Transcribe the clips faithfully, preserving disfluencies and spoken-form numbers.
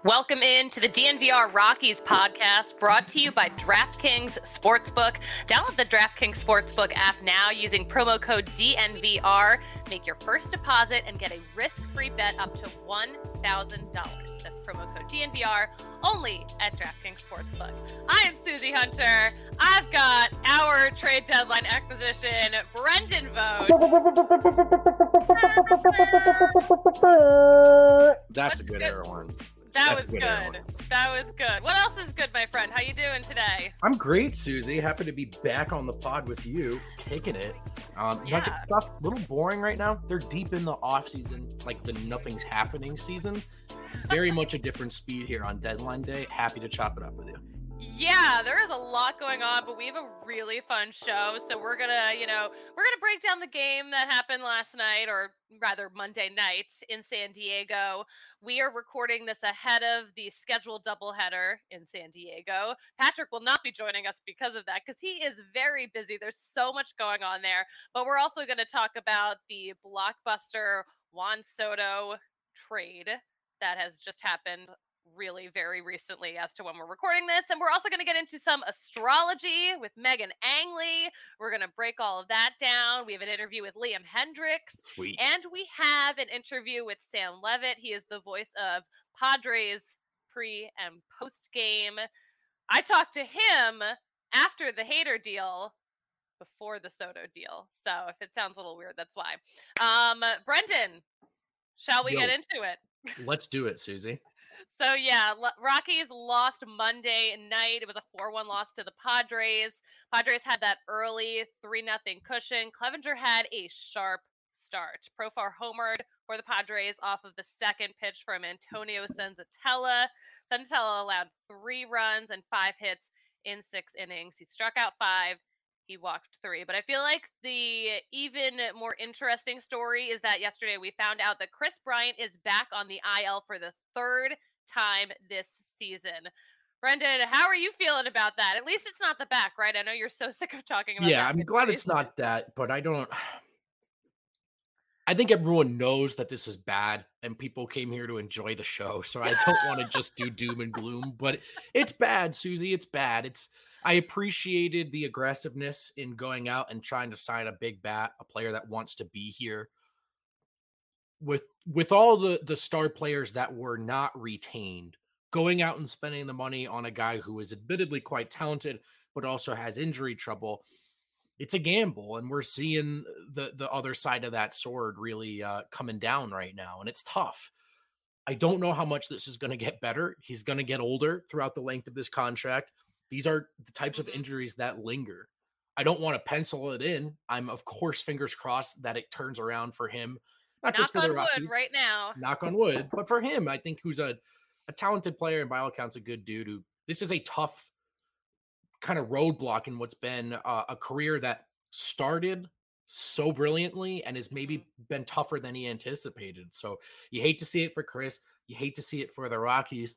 Welcome in to the D N V R Rockies podcast, brought to you by DraftKings Sportsbook. Download the DraftKings Sportsbook app now using promo code D N V R. Make your first deposit and get a risk-free bet up to one thousand dollars. That's promo code D N V R, only at DraftKings Sportsbook. I am Susie Hunter. I've got our trade deadline acquisition, Brendan Vogt. That's a good air horn. That was good. good. That was good. What else is good, my friend? How you doing today? I'm great, Susie. Happy to be back on the pod with you, kicking it. Um, Yeah. Nuggets stuff a little boring right now. They're deep in the off season, like the nothing's happening season. Very much a different speed here on deadline day. Happy to chop it up with you. Yeah, there is a lot going on, but we have a really fun show. So we're gonna, you know, we're gonna break down the game that happened last night, or rather Monday night in San Diego. We are recording this ahead of the scheduled doubleheader in San Diego. Patrick will not be joining us because of that, because he is very busy. There's so much going on there. But we're also going to talk about the blockbuster Juan Soto trade that has just happened really very recently as to when we're recording this. And we're also going to get into some astrology with Megan Angley. We're going to break all of that down. We have an interview with Liam Hendricks. Sweet. And we have an interview with Sam Levitt. He is the voice of Padres pre and post game. I talked to him after the Hader deal, before the Soto deal. So if it sounds a little weird, that's why. Um, Brendan, shall we Yo. get into it? Let's do it, Susie. So yeah, L- Rockies lost Monday night. It was a four one loss to the Padres. Padres had that early three nothing cushion. Clevenger had a sharp start. Profar homered for the Padres off of the second pitch from Antonio Senzatella. Senzatella allowed three runs and five hits in six innings. He struck out five. He walked three. But I feel like the even more interesting story is that yesterday we found out that Chris Bryant is back on the I L for the third time this season. Brendan, how are you feeling about that? At least it's not the back, right? I know you're so sick of talking about Yeah, that. I'm glad it's not that, but I don't. I think everyone knows that this is bad and people came here to enjoy the show. So I don't want to just do doom and gloom, but it's bad, Susie. It's bad. It's I appreciated the aggressiveness in going out and trying to sign a big bat, a player that wants to be here. With with all the, the star players that were not retained, going out and spending the money on a guy who is admittedly quite talented, but also has injury trouble, it's a gamble. And we're seeing the, the other side of that sword really uh, coming down right now. And it's tough. I don't know how much this is going to get better. He's going to get older throughout the length of this contract. These are the types of injuries that linger. I don't want to pencil it in. I'm, of course, fingers crossed that it turns around for him. Not just Knock for on the Rockies, wood right now. knock on wood, but for him, I think who's a, a talented player and by all accounts a good dude. Who this is a tough kind of roadblock in what's been uh, a career that started so brilliantly and has maybe been tougher than he anticipated. So you hate to see it for Chris. You hate to see it for the Rockies.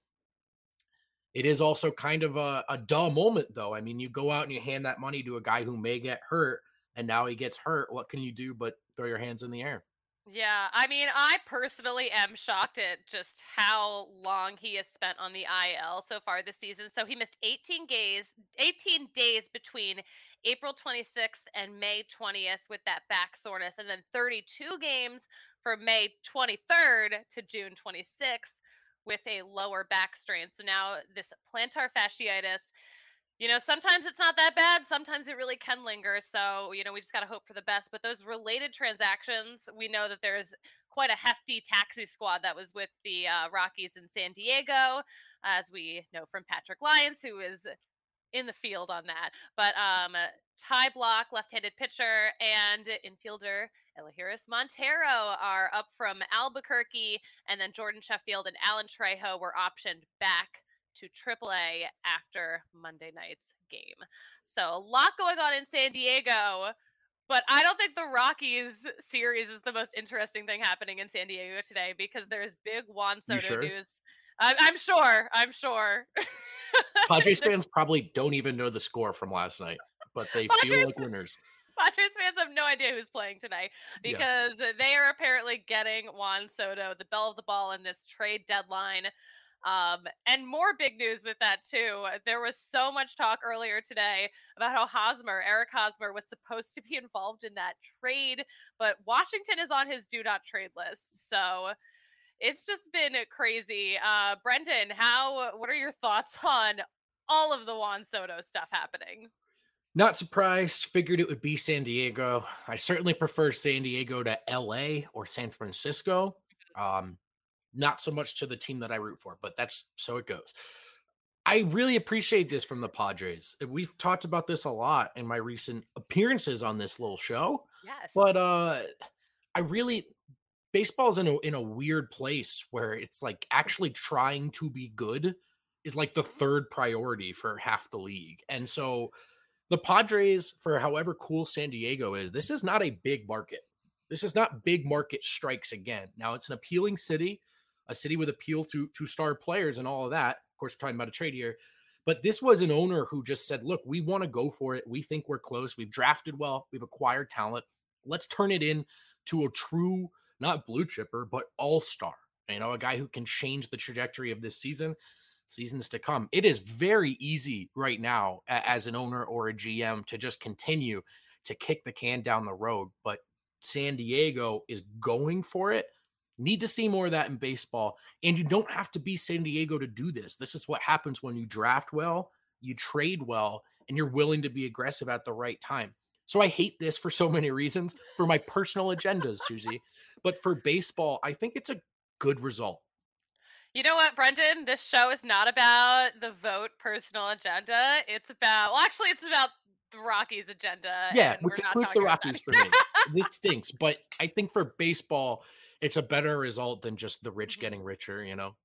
It is also kind of a, a dull moment, though. I mean, you go out and you hand that money to a guy who may get hurt, and now he gets hurt. What can you do but throw your hands in the air? Yeah, I mean, I personally am shocked at just how long he has spent on the I L so far this season. So he missed eighteen days, eighteen days between April twenty-sixth and May twentieth with that back soreness, and then thirty-two games from May twenty-third to June twenty-sixth with a lower back strain. So now this plantar fasciitis. You know, sometimes it's not that bad. Sometimes it really can linger. So, you know, we just got to hope for the best. But those related transactions, we know that there's quite a hefty taxi squad that was with the uh, Rockies in San Diego, as we know from Patrick Lyons, who is in the field on that. But um, Ty Block, left-handed pitcher, and infielder Elahiris Montero are up from Albuquerque. And then Jordan Sheffield and Alan Trejo were optioned back to triple A after Monday night's game. So a lot going on in San Diego, but I don't think the Rockies series is the most interesting thing happening in San Diego today, because there's big Juan Soto sure? news. I'm, I'm sure. I'm sure. Padres fans probably don't even know the score from last night, but they Padres, feel like winners. Padres fans have no idea who's playing tonight, because yeah. they are apparently getting Juan Soto, the belle of the ball, in this trade deadline. Um, and more big news with that too. There was so much talk earlier today about how Hosmer, Eric Hosmer, was supposed to be involved in that trade, but Washington is on his do not trade list. So it's just been crazy. Uh, Brendan, how? What are your thoughts on all of the Juan Soto stuff happening? Not surprised. Figured it would be San Diego. I certainly prefer San Diego to L A or San Francisco. Um, not so much to the team that I root for, but that's so it goes. I really appreciate this from the Padres. We've talked about this a lot in my recent appearances on this little show, but Yes. uh, I really baseball's in a in a weird place where it's like actually trying to be good is like the third priority for half the league, and so the Padres, for however cool San Diego is, this is not a big market. This is not big market strikes again. Now it's an appealing city, a city with appeal to to star players and all of that. Of course, we're talking about a trade here, but this was an owner who just said, "Look, we want to go for it. We think we're close. We've drafted well. We've acquired talent. Let's turn it in to a true, not blue chipper, but all star. You know, a guy who can change the trajectory of this season." Seasons to come. It is very easy right now as an owner or a G M to just continue to kick the can down the road, but San Diego is going for it. Need to see more of that in baseball. And you don't have to be San Diego to do this. This is what happens when you draft well, you trade well, and you're willing to be aggressive at the right time. So I hate this for so many reasons for my personal agendas, Susie. But for baseball, I think it's a good result. You know what, Brendan? This show is not about the vote personal agenda. It's about, well, actually, it's about the Rockies' agenda, Yeah, and which we're not includes the talking about Rockies for that. me. This stinks, but I think for baseball, it's a better result than just the rich Mhm. getting richer, you know?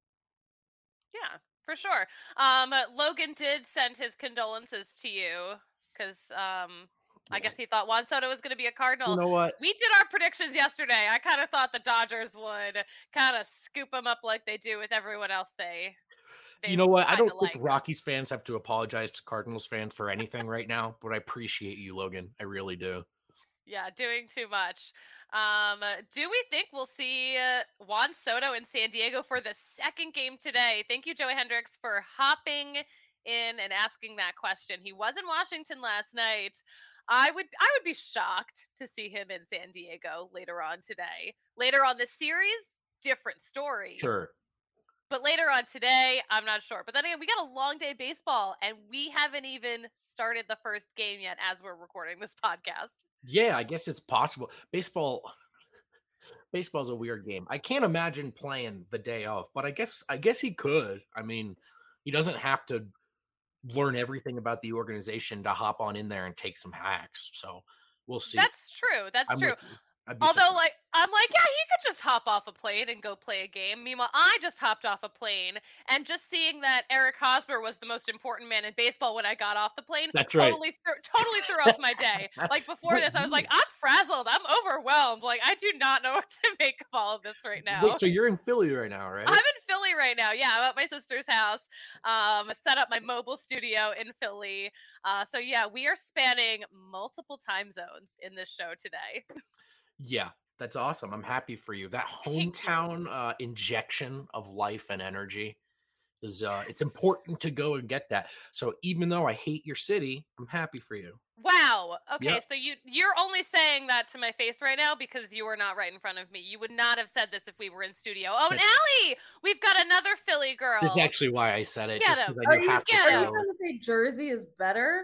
Yeah, for sure. Um, Logan did send his condolences to you because um, I Yeah. guess he thought Juan Soto was going to be a You Cardinal. know what? We did our predictions yesterday. I kind of thought the Dodgers would kind of scoop him up like they do with everyone else they You they know what? I kind don't of think like. Rockies fans have to apologize to Cardinals fans for anything right now, but I appreciate you, Logan. I really do. Yeah, doing too much. Um, uh, do we think we'll see uh, Juan Soto in San Diego for the second game today? Thank you, Joey Hendricks, for hopping in and asking that question. He was in Washington last night. I would I would be shocked to see him in San Diego later on today. Later on this series, different story. Sure. But later on today, I'm not sure. But then again, we got a long day of baseball, and we haven't even started the first game yet as we're recording this podcast. Yeah, I guess it's possible. Baseball baseball's a weird game. I can't imagine playing the day of, but I guess I guess he could. I mean, he doesn't have to learn everything about the organization to hop on in there and take some hacks. So we'll see. That's true. That's I'm true. with you. I'd be Although, surprised. like, I'm like, yeah, he could just hop off a plane and go play a game. Meanwhile, I just hopped off a plane, and just seeing that Eric Hosmer was the most important man in baseball when I got off the plane That's right. totally, threw, totally threw off my day. Like before Wait, this, I was like, yes. I'm frazzled. I'm overwhelmed. Like, I do not know what to make of all of this right Wait, now. so you're in Philly right now, I'm right? in Philly right now. Yeah, I'm at my sister's house. Um, set up my mobile studio in Philly. Uh, so yeah, we are spanning multiple time zones in this show today. Yeah, that's awesome. I'm happy for you. That Thank you. hometown uh, injection of life and energy is uh it's Yes. important to go and get that. So even though I hate your city, I'm happy for you. Wow. Okay, Yep. so you you're only saying that to my face right now because you are not right in front of me. You would not have said this if we were in studio. Oh, and That's Allie, we've got another Philly that's girl. actually why I said it, Get just him. because I Are knew you half the Get are you him. trying show. to say Jersey is better?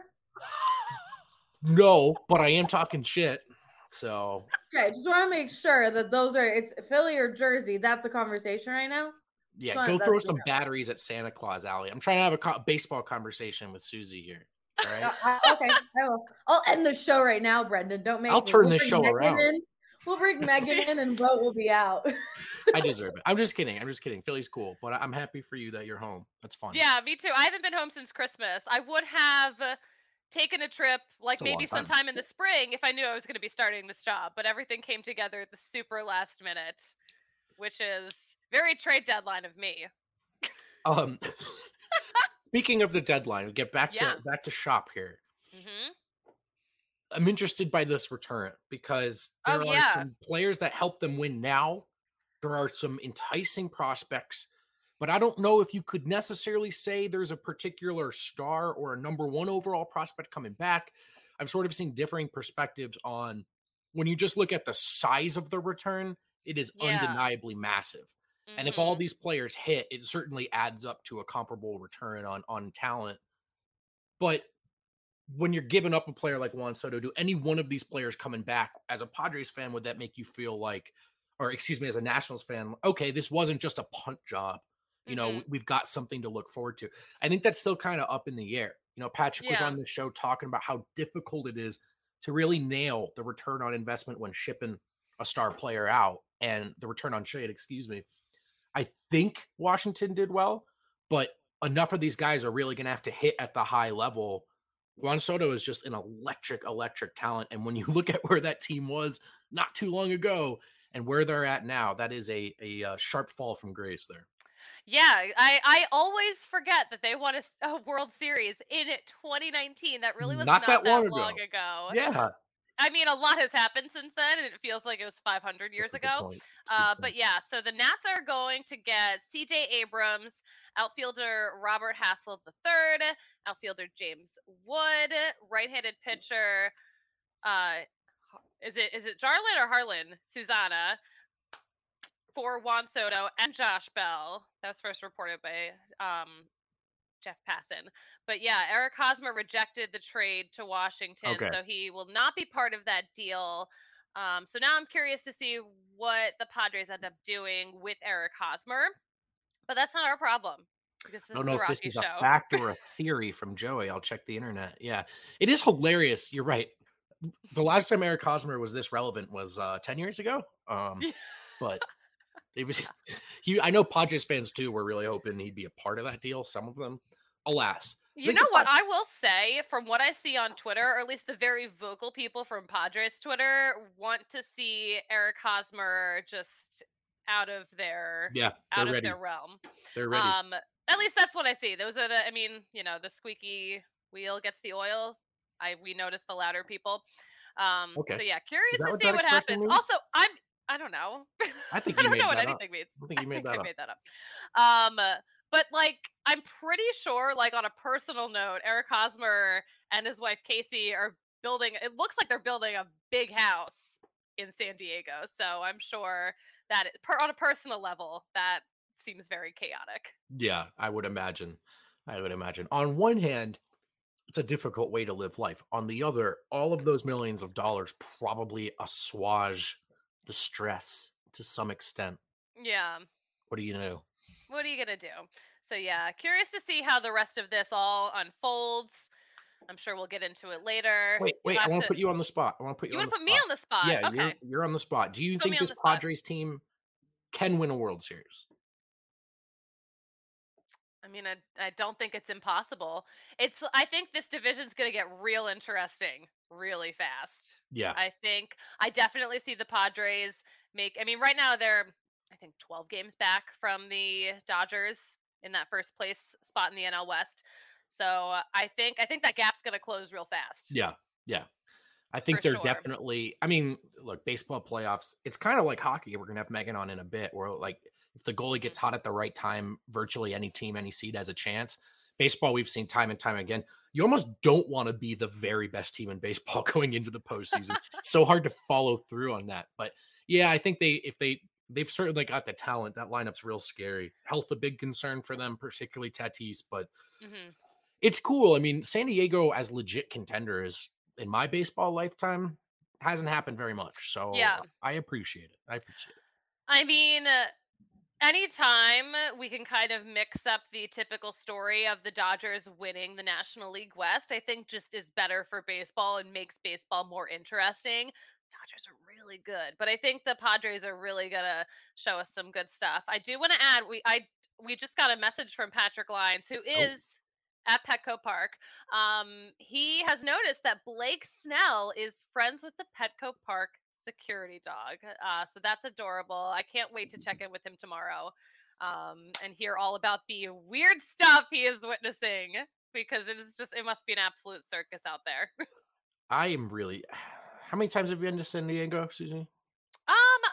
No, but I am talking shit. So Okay, just want to make sure that those are it's Philly or Jersey. That's the conversation right now. Just yeah, go want throw that's some batteries at Santa Claus Alley. I'm trying to have a co- baseball conversation with Susie here. All right. uh, I- okay. I will. I'll end the show right now, Brendan. Don't make I'll me. turn We'll this bring show Megan around. in. We'll bring Megan She- in, and vote will be out. I deserve it. I'm just kidding. I'm just kidding. Philly's cool, but I- I'm happy for you that you're home. That's fun. Yeah, me too. I haven't been home since Christmas. I would have uh, taken a trip like It's a maybe long time. sometime in the spring if I knew I was going to be starting this job, but everything came together at the super last minute, which is very trade deadline of me. Um, speaking of the deadline, we get back Yeah. to back to shop here. Mhm. I'm interested by this return because Oh there are yeah. some players that help them win now. There are some enticing prospects but I don't know if you could necessarily say there's a particular star or a number one overall prospect coming back. I've sort of seen differing perspectives on when you just look at the size of the return, it is Yeah. undeniably massive. And if all Mhm. these players hit, it certainly adds up to a comparable return on on talent. But when you're giving up a player like Juan Soto, do any one of these players coming back as a Padres fan, would that make you feel like, or excuse me, as a Nationals fan, okay, this wasn't just a punt job. You know, we- Mhm. we've got something to look forward to. I think that's still kind of up in the air. You know, Patrick was Yeah. on the show talking about how difficult it is to really nail the return on investment when shipping a star player out and the return on trade, excuse me. I think Washington did well, but enough of these guys are really going to have to hit at the high level. Juan Soto is just an electric, electric talent. And when you look at where that team was not too long ago and where they're at now, that is a, a, uh sharp fall from grace there. Yeah, I I always forget that they won a, s- a World Series in twenty nineteen. That really was Not not that long that long ago. ago. Yeah. I mean, a lot has happened since then, and it feels like it was five hundred That's years a good ago. point. That's a good Uh, point. but yeah, so the Nats are going to get C J Abrams, outfielder Robert Hassel the third, outfielder James Wood, right-handed pitcher. Uh, is it is it Jarlin or Harlan Susanna for Juan Soto and Josh Bell? That was first reported by um, Jeff Passan. But yeah, Eric Hosmer rejected the trade to Washington, Okay. so he will not be part of that deal. Um, so now I'm curious to see what the Padres end up doing with Eric Hosmer. But that's not our problem because I this don't is know a if this Rocky is a show. fact or a theory from Joey. I'll check the internet. Yeah. It is hilarious. You're right. The last time Eric Hosmer was this relevant was uh, ten years ago. Um, but it was he. I know Padres fans too were really hoping he'd be a part of that deal. Some of them, alas, I You think know the what? Pad- I will say, from what I see on Twitter, or at least the very vocal people from Padres Twitter, want to see Eric Hosmer just out of their yeah, they're out of their ready. realm. They're ready. Um, at least that's what I see. Those are the. I mean, you know, the squeaky wheel gets the oil. I we notice the louder people. Um, Okay, so yeah, is curious that to what see that what expression happens. means? Also, I'm. I don't know. I think I you don't know made what that up. anything means. I think I you made think that I up. made that up. Um, but like, I'm pretty sure, like on a personal note, Eric Hosmer and his wife Casey are building. It looks like they're building a big house in San Diego. So I'm sure that it, per, on a personal level, that seems very chaotic. Yeah, I would imagine. I would imagine. On one hand, it's a difficult way to live life. On the other, all of those millions of dollars probably assuage the stress to some extent. Yeah. What do you know? What are you gonna do? So yeah, curious to see how the rest of this all unfolds. I'm sure we'll get into it later. Wait, You'll wait, I have want to to. put you on the spot. I want to put you You on want the to put me spot. on the spot? Yeah, Okay, you're you're on the spot. Do you put think me on this the spot. Padres team can win a World Series? I mean, I, I don't think it's impossible. It's I think this division's going to get real interesting really fast. Yeah. I think I definitely see the Padres make I mean, right now they're I think twelve games back from the Dodgers in that first place spot in the N L West. So, uh, I think I think that gap's going to close real fast Yeah. Yeah. I for think they're sure. definitely I mean, look, baseball playoffs, it's kind of like hockey. We're gonna have Megan on in a bit, where like if the goalie Mhm. gets hot at the right time, virtually any team, any seed has a chance. Baseball, we've seen time and time again. You almost don't want to be the very best team in baseball going into the postseason. So hard to follow through on that. But yeah, I think they if they they've certainly got the talent. That lineup's real scary. Health a big concern for them, particularly Tatis, but Mhm. it's cool. I mean, San Diego as legit contenders in my baseball lifetime hasn't happened very much. Yeah. So I appreciate it. I appreciate it. I mean, uh, anytime we can kind of mix up the typical story of the Dodgers winning the National League West, I think just is better for baseball and makes baseball more interesting. Dodgers are really good, but I think the Padres are really gonna show us some good stuff. I do want to add we I we just got a message from Patrick Lyons, who Oh, is at Petco Park. Um, he has noticed that Blake Snell is friends with the Petco Park security dog. Uh, so that's adorable. I can't wait to check in with him tomorrow um, and hear all about the weird stuff he is witnessing because it is just, it must be an absolute circus out there. I am really. How many times have you been to San Diego, Susie? Um, I've been a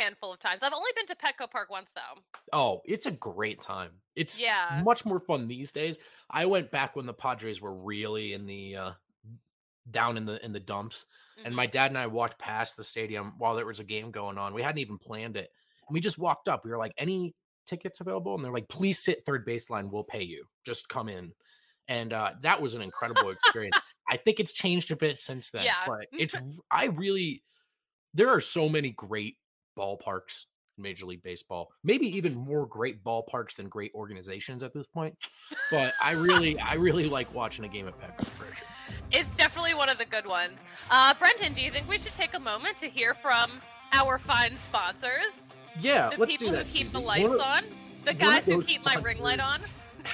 handful of times. I've only been to Petco Park once, though. Oh, it's a great time. It's Yeah. much more fun these days. I went back when the Padres were really in the uh, down in the in the dumps, Mhm. and my dad and I walked past the stadium while there was a game going on. We hadn't even planned it, and we just walked up. We were like, "Any tickets available?" And they're like, "Please sit third baseline. We'll pay you. Just come in." And uh, that was an incredible experience. I think it's changed a bit since then, Yeah. but it's I really there are so many great ballparks in Major League Baseball. Maybe even more great ballparks than great organizations at this point. But I really, I really like watching a game at Petco for sure. It's definitely one of the good ones. Uh, Brendan, do you think we should take a moment to hear from our fine sponsors? Yeah, The let's people do that. who keep Susie. the lights One of- on? The one of guys who those keep my ring light on?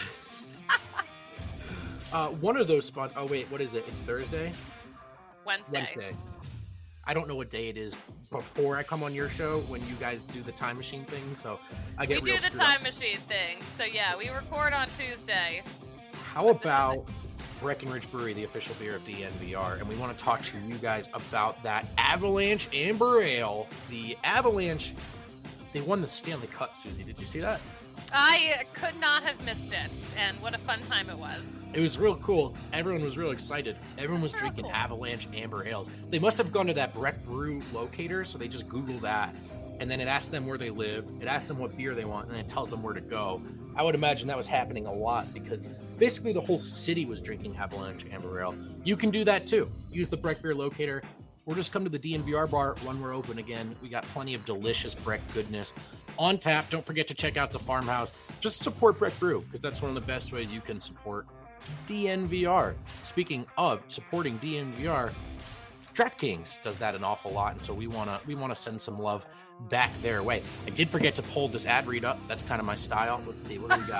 Uh, one of those spots. Oh wait, what is it? It's Thursday. Wednesday. Wednesday. I don't know what day it is before I come on your show when you guys do the time machine thing. So I We get do real the screwed time up. machine thing. So yeah, we record on Tuesday. How about Breckenridge Brewery, the official beer of D N V R? And we want to talk to you guys about that Avalanche Amber Ale. The Avalanche, they won the Stanley Cup, Susie. Did you see that? I could not have missed it, and what a fun time it was. It was real cool. Everyone was real excited. Everyone was Real drinking cool. Avalanche Amber Ales. They must have gone to that Breck Brew locator, so they just Googled that. And then it asked them where they live. It asked them what beer they want, and then it tells them where to go. I would imagine that was happening a lot because basically the whole city was drinking Avalanche Amber Ale. You can do that too. Use the Breck Beer locator. Or just come to the D N V R bar when we're open again. We got plenty of delicious Breck goodness on tap. Don't forget to check out the farmhouse. Just support Breck Brew because that's one of the best ways you can support D N V R. Speaking of supporting D N V R, DraftKings does that an awful lot, and so we wanna we wanna send some love back their way. I did forget to pull this ad read up. That's kind of my style. Let's see what do we got.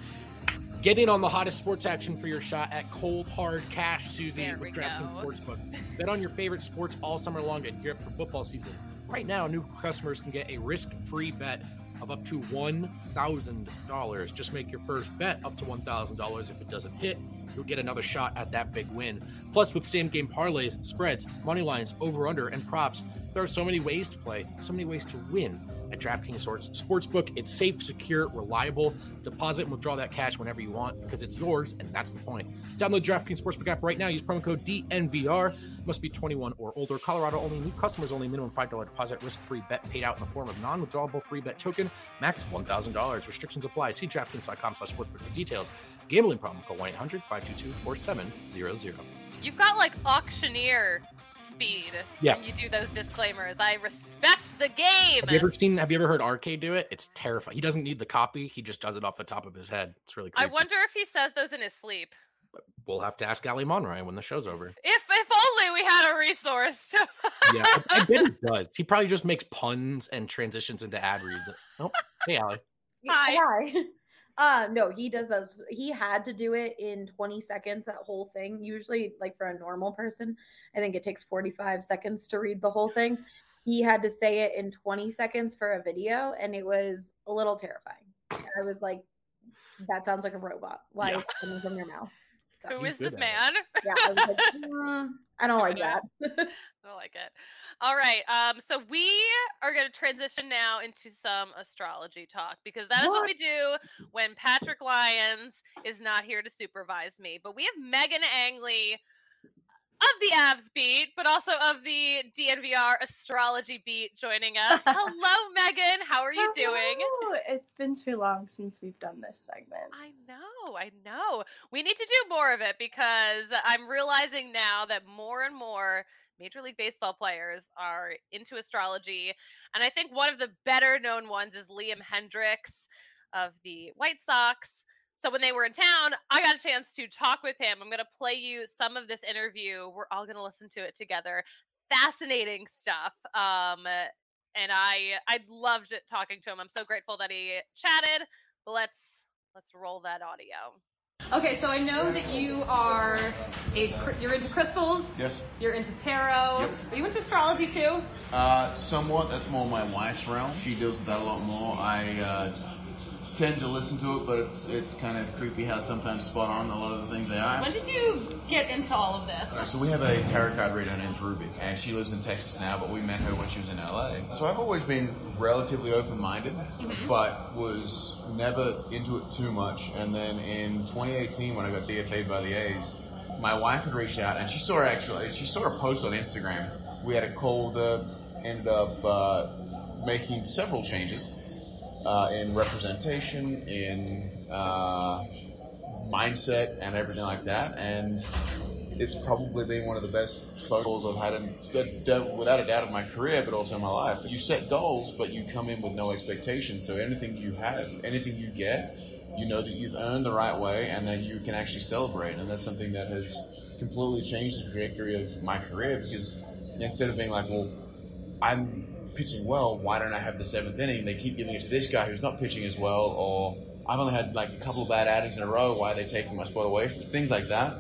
Get in on the hottest sports action for your shot at cold hard cash, Susie, There we with DraftKings go. Sportsbook. Bet on your favorite sports all summer long and gear up for football season. Right now, new customers can get a risk-free bet of up to one thousand dollars. Just make your first bet up to one thousand dollars. If it doesn't hit, you'll get another shot at that big win. Plus, with same-game parlays, spreads, money lines, over-under, and props, there are so many ways to play, so many ways to win at DraftKings Sportsbook. It's safe, secure, reliable. Deposit and withdraw that cash whenever you want because it's yours, and that's the point. Download DraftKings Sportsbook app right now. Use promo code D N V R. Must be twenty-one or older. Colorado only. New customers only. Minimum five dollars deposit. Risk-free bet paid out in the form of non-withdrawable free bet token. Max one thousand dollars. Restrictions apply. See DraftKings.com slash sportsbook for details. Gambling problem. Call one eight hundred five two two four seven zero zero. You've got like auctioneer speed Yeah. when you do those disclaimers. I respect the game. Have you ever seen, have you ever heard Arcade do it? It's terrifying. He doesn't need the copy. He just does it off the top of his head. It's really I creepy. wonder if he says those in his sleep. We'll have to ask Ali Monroy when the show's over. If if only we had a resource to Yeah, I, I bet he does. He probably just makes puns and transitions into ad reads. Oh, hey, Ali. Hi. Hi. Uh, no, he does those. He had to do it in twenty seconds, that whole thing. Usually, like for a normal person, I think it takes forty-five seconds to read the whole thing. He had to say it in twenty seconds for a video, and it was a little terrifying. I was like, that sounds like a robot. Why Yeah. is it coming from your mouth? So, Who He's is this good at it. man? yeah, I was like, mm, I don't like that. I like it. All right. Um, so we are going to transition now into some astrology talk because that is what What? we do when Patrick Lyons is not here to supervise me. But we have Megan Angley of the Avs beat, but also of the D N V R astrology beat joining us. Hello, Megan. How are you doing? Hello. It's been too long since we've done this segment. I know, I know. We need to do more of it because I'm realizing now that more and more Major League Baseball players are into astrology. And I think one of the better known ones is Liam Hendricks of the White Sox. So when they were in town, I got a chance to talk with him. I'm going to play you some of this interview. We're all going to listen to it together. Fascinating stuff. Um, and I I loved it talking to him. I'm so grateful that he chatted. But let's let's roll that audio. Okay, so I know that you are a cr- you're into crystals. Yes. You're into tarot. Yep. Are you into astrology too? Uh, somewhat. That's more my wife's realm. She deals with that a lot more. I uh, tend to listen to it, but it's it's kind of creepy how sometimes spot on a lot of the things they are. When did you get into all of this? Uh, so we have a tarot card reader named Ruby, and she lives in Texas now, but we met her when she was in L A. So I've always been relatively open-minded, mm-hmm. but was never into it too much. And then in twenty eighteen, when I got D F A'd by the A's, my wife had reached out, and she saw actually she saw a post on Instagram. We had a call that ended up uh, making several changes. Uh, in representation, in uh, mindset, and everything like that, and it's probably been one of the best phone calls I've had, in, without a doubt, in my career, but also in my life. You set goals, but you come in with no expectations, so anything you have, anything you get, you know that you've earned the right way, and that you can actually celebrate, and that's something that has completely changed the trajectory of my career, because instead of being like, well, I'm pitching well, why don't I have the seventh inning? They keep giving it to this guy who's not pitching as well, or I've only had like a couple of bad outings in a row, why are they taking my spot away from me? Things like that.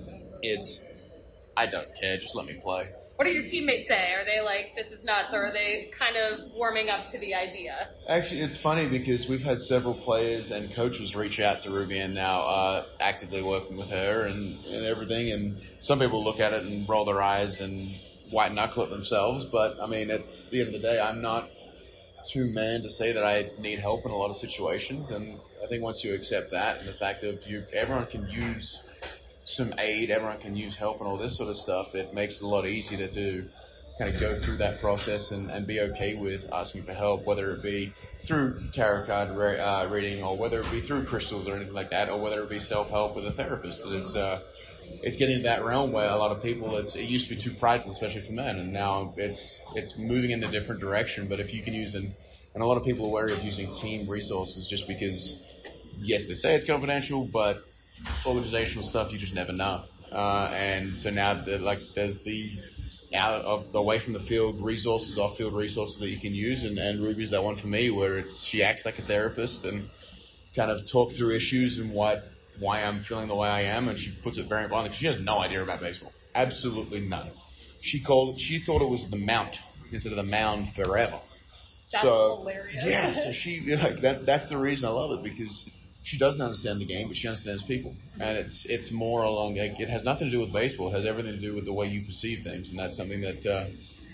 It's, I don't care, just let me play. What do your teammates say? Are they like, this is nuts, or are they kind of warming up to the idea? Actually, it's funny because we've had several players and coaches reach out to Ruby and now are actively working with her and, and everything, and some people look at it and roll their eyes and white knuckle it themselves, but I mean, at the end of the day, I'm not too man to say that I need help in a lot of situations, and I think once you accept that and the fact of you, everyone can use some aid, everyone can use help and all this sort of stuff, it makes it a lot easier to, to kind of go through that process and, and be okay with asking for help, whether it be through tarot card re- uh, reading, or whether it be through crystals or anything like that, or whether it be self-help with a therapist. It's uh, It's getting to that realm where a lot of people, it's, it used to be too prideful, especially for men, and now it's it's moving in a different direction. But if you can use, an, and a lot of people are wary of using team resources just because, yes, they say it's confidential, but organizational stuff, you just never know. Uh, and so now, the, like, there's the out of away from the field resources, off-field resources that you can use, and, and Ruby's that one for me, where it's she acts like a therapist and kind of talk through issues and what. why I'm feeling the way I am, and she puts it very bluntly, because she has no idea about baseball. Absolutely none. She called. She thought it was the Mount instead of the Mound forever. That's so, hilarious. Yeah, so she like that. That's the reason I love it, because she doesn't understand the game, but she understands people, and it's it's more along. Like, it has nothing to do with baseball. It has everything to do with the way you perceive things, and that's something that uh,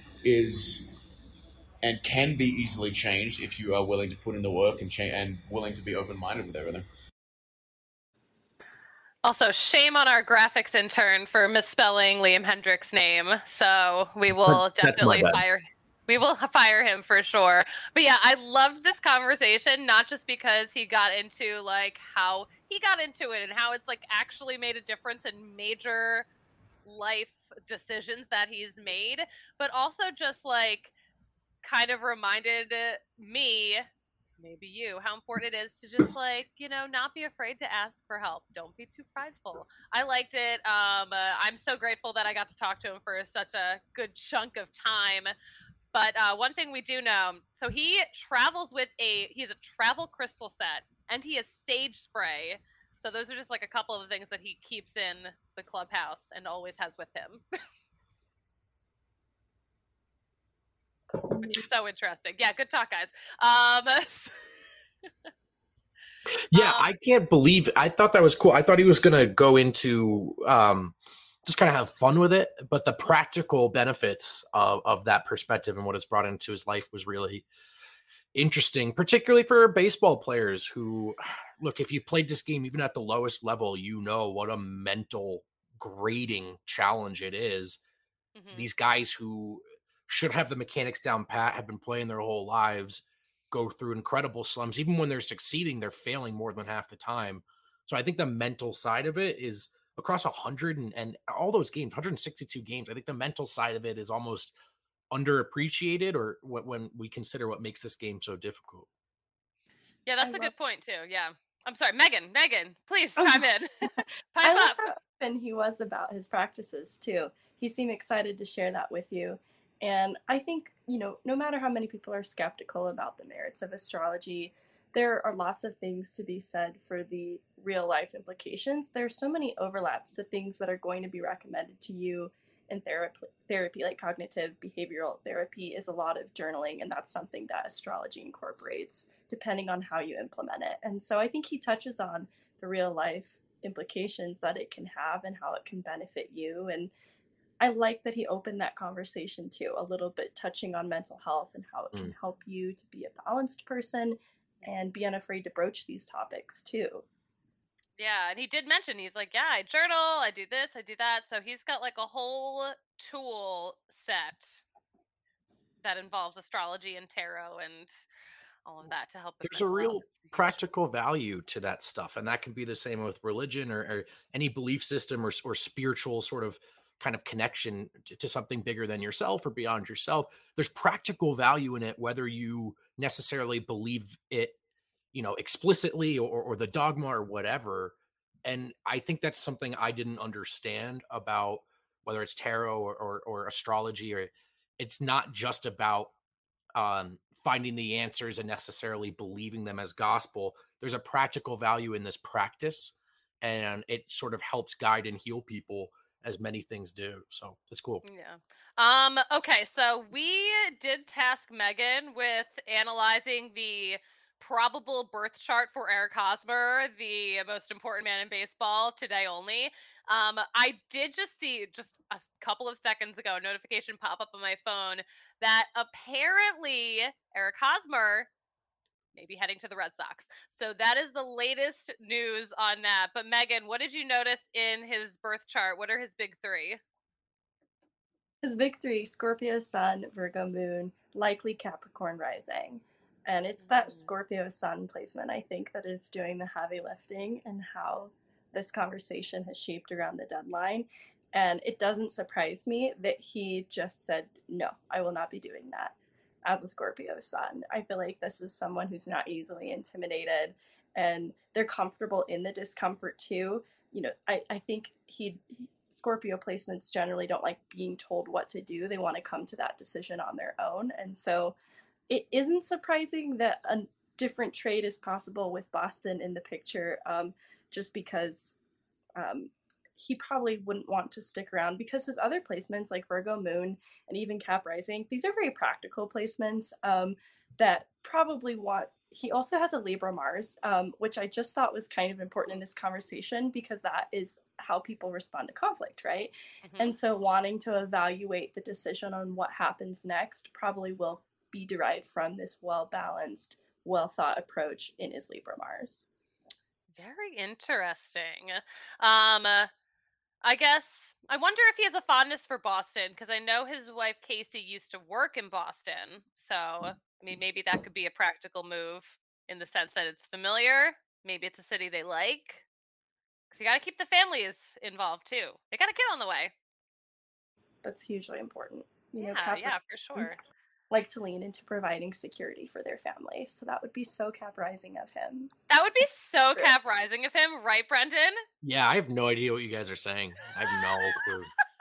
is and can be easily changed if you are willing to put in the work and cha- and willing to be open-minded with everything. Also, shame on our graphics intern for misspelling Liam Hendriks' name. So we will definitely fire we will fire him for sure. But yeah, I loved this conversation, not just because he got into like how he got into it and how it's like actually made a difference in major life decisions that he's made, but also just like kind of reminded me, maybe you, how important it is to just like, you know, not be afraid to ask for help. Don't be too prideful. I liked it. Um, uh, I'm so grateful that I got to talk to him for such a good chunk of time. But uh, one thing we do know, so he travels with a, he has a travel crystal set, and he has sage spray. So those are just like a couple of the things that he keeps in the clubhouse and always has with him. Which is so interesting. Yeah, good talk, guys. Um, yeah, um, I can't believe it. I thought that was cool. I thought he was going to go into um, just kind of have fun with it, but the practical benefits of, of that perspective and what it's brought into his life was really interesting, particularly for baseball players who, look, if you've played this game, even at the lowest level, you know what a mental grading challenge it is. Mm-hmm. These guys who should have the mechanics down pat, have been playing their whole lives, go through incredible slumps. Even when they're succeeding, they're failing more than half the time. So I think the mental side of it is across one hundred and, and all those games, one hundred sixty-two games. I think the mental side of it is almost underappreciated, or what, when we consider what makes this game so difficult. Yeah, that's I a love- good point too. Yeah. I'm sorry, Megan, Megan, please oh. chime in. Pipe I love up. how open he was about his practices too. He seemed excited to share that with you. And I think, you know, no matter how many people are skeptical about the merits of astrology, there are lots of things to be said for the real life implications. There's so many overlaps to things that are going to be recommended to you in therapy, therapy like cognitive behavioral therapy is a lot of journaling, and that's something that astrology incorporates depending on how you implement it. And so I think he touches on the real life implications that it can have and how it can benefit you. And I like that he opened that conversation too, a little bit touching on mental health and how it can Mm. help you to be a balanced person and be unafraid to broach these topics too. Yeah, and he did mention, he's like, yeah, I journal, I do this, I do that. So he's got like a whole tool set that involves astrology and tarot and all of that to help with There's a mental real health. practical value to that stuff, and that can be the same with religion or, or any belief system or, or spiritual sort of kind of connection to, to something bigger than yourself or beyond yourself. There's practical value in it, whether you necessarily believe it, you know, explicitly or, or the dogma or whatever. And I think that's something I didn't understand about whether it's tarot or, or, or astrology, or it's not just about um, finding the answers and necessarily believing them as gospel. There's a practical value in this practice, and it sort of helps guide and heal people as many things do. So it's cool. Yeah. Um, okay, so we did task Megan with analyzing the probable birth chart for Eric Hosmer, the most important man in baseball, today only. Um, I did just see just a couple of seconds ago a notification pop up on my phone that apparently Eric Hosmer may be heading to the Red Sox. So that is the latest news on that. But Megan, what did you notice in his birth chart? What are his big three? His big three: Scorpio sun, Virgo moon, likely Capricorn rising. And it's that Scorpio sun placement, I think, that is doing the heavy lifting and how this conversation has shaped around the deadline. And it doesn't surprise me that he just said, no, I will not be doing that as a Scorpio sun. I feel like this is someone who's not easily intimidated, and they're comfortable in the discomfort too. You know, I, I think he Scorpio placements generally don't like being told what to do. They want to come to that decision on their own. And so it isn't surprising that a different trade is possible with Boston in the picture, um, just because um, he probably wouldn't want to stick around, because his other placements like Virgo moon and even Cap rising, these are very practical placements um, that probably want. He also has a Libra Mars, um, which I just thought was kind of important in this conversation, because that is how people respond to conflict, right? Mm-hmm. And so wanting to evaluate the decision on what happens next probably will be derived from this well-balanced, well-thought approach in his Libra Mars. Very interesting. Um, uh, I guess I wonder if he has a fondness for Boston, because I know his wife Casey used to work in Boston. So, I mean, maybe that could be a practical move in the sense that it's familiar. Maybe it's a city they like. Because you got to keep the families involved too. They got a kid on the way. That's hugely important. You yeah, know, Cap yeah, for sure. Like to lean into providing security for their family. So that would be so Cap rising of him. That would be so Cap rising of him, right, Brendan? Yeah, I have no idea what you guys are saying. I have no clue.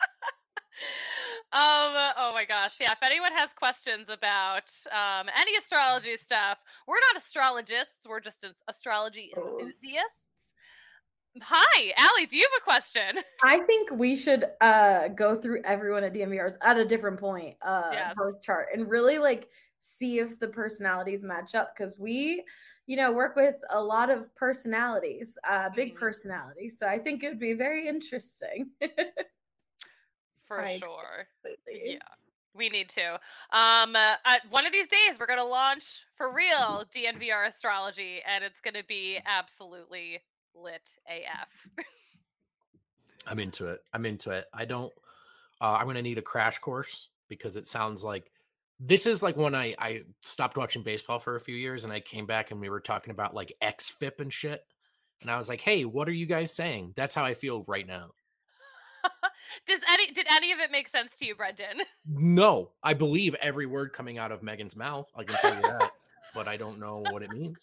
um, oh my gosh. Yeah, if anyone has questions about um, any astrology stuff, we're not astrologists. We're just astrology enthusiasts. Hi, Allie, do you have a question? I think we should uh, go through everyone at D M V R's at a different point, uh, Yes. birth chart, and really like see if the personalities match up, because we, you know, work with a lot of personalities, uh, big Mhm. personalities. So I think it would be very interesting. For I sure. Completely. Yeah, we need to. Um, uh, uh, one of these days, we're going to launch for real D N V R astrology, and it's going to be absolutely lit A F. I'm into it. I'm into it. I don't, uh, I'm going to need a crash course, because it sounds like this is like when I, I stopped watching baseball for a few years, and I came back and we were talking about like X F I P and shit. And I was like, hey, what are you guys saying? That's how I feel right now. Does any, did any of it make sense to you, Brendan? No, I believe every word coming out of Megan's mouth. I can tell you that, but I don't know what it means.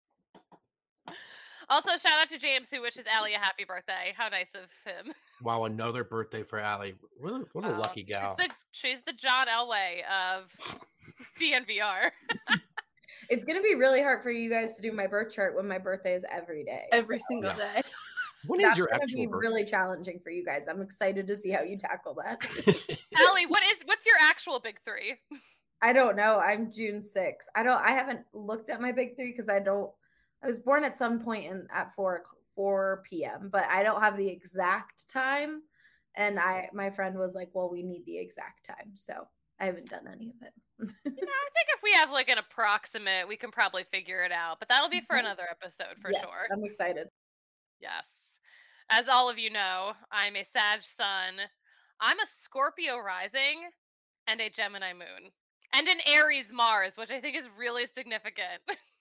Also, shout out to James, who wishes Allie a happy birthday. How nice of him. Wow, another birthday for Allie. What a, what a Wow. lucky gal. She's the, she's the John Elway of D N V R. It's going to be really hard for you guys to do my birth chart when my birthday is every day. Every so. single Yeah. day. What is That's your gonna actual be birthday? really challenging for you guys. I'm excited to see how you tackle that. Allie, what is what's your actual big three? I don't know. I'm June sixth. I don't. I haven't looked at my big three because I don't. I was born at some point in at four four p.m. but I don't have the exact time. And I my friend was like, "Well, we need the exact time," so I haven't done any of it. You know, I think if we have like an approximate, we can probably figure it out. But that'll be for another episode for Yes, sure. I'm excited. Yes. As all of you know, I'm a Sag Sun. I'm a Scorpio rising and a Gemini moon. And an Aries Mars, which I think is really significant.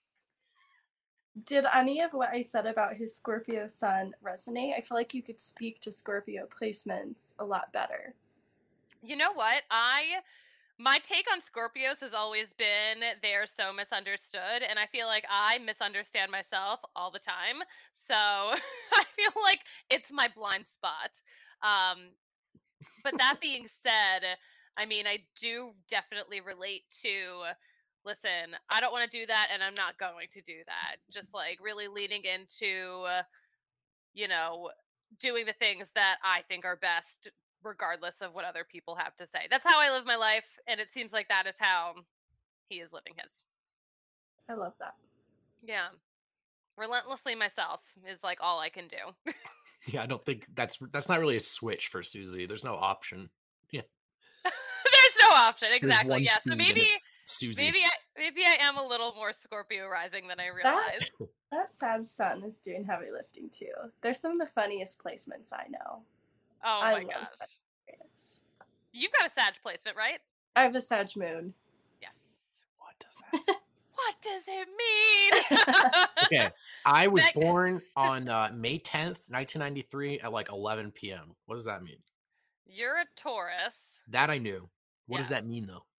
Did any of what I said about his Scorpio sun resonate? I feel like you could speak to Scorpio placements a lot better. You know what? I my take on Scorpios has always been they're so misunderstood, and I feel like I misunderstand myself all the time. So I feel like it's my blind spot. Um, but that being said, I mean, I do definitely relate to, listen, I don't want to do that, and I'm not going to do that. Just like really leaning into, uh, you know, doing the things that I think are best, regardless of what other people have to say. That's how I live my life, and it seems like that is how he is living his. I love that. Yeah. Relentlessly myself is like all I can do. Yeah, I don't think that's that's not really a switch for Susie. There's no option. Yeah. There's no option. There's Exactly. one Yeah. So speed and maybe it's Susie. maybe I maybe I am a little more Scorpio rising than I realized. That, that Sag sun is doing heavy lifting too. They're some of the funniest placements I know. Oh I my love gosh. Sagittarius. You've got a Sag placement, right? I have a Sag moon. Yes. What does that? What does it mean? Okay, I was Meg- born on uh, May tenth, nineteen ninety-three at like eleven p.m. What does that mean? You're a Taurus. That I knew. What does that Yes. mean though?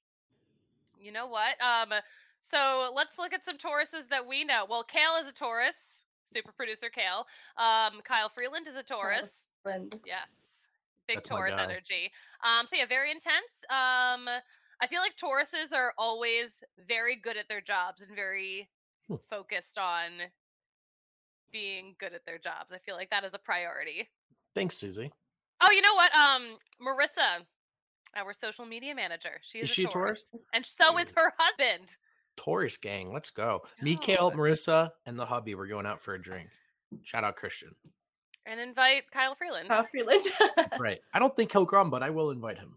You know what? Um, so let's look at some Tauruses that we know. Well, Kale is a Taurus. Super producer Kale. Um, Kyle Freeland is a Taurus. Friend. Yes. Big That's my Taurus guy. energy. Um, so yeah, very intense. Um, I feel like Tauruses are always very good at their jobs and very Hmm. focused on being good at their jobs. I feel like that is a priority. Thanks, Susie. Oh, you know what? Um, Marissa, our social media manager. She is, Is she a Taurus? and so is Yes. her husband. Taurus gang, let's go. Me, Go. Kale, Marissa, and the hubby. We're going out for a drink. Shout out Christian. And invite Kyle Freeland. Kyle Freeland. Right. I don't think he'll come, but I will invite him.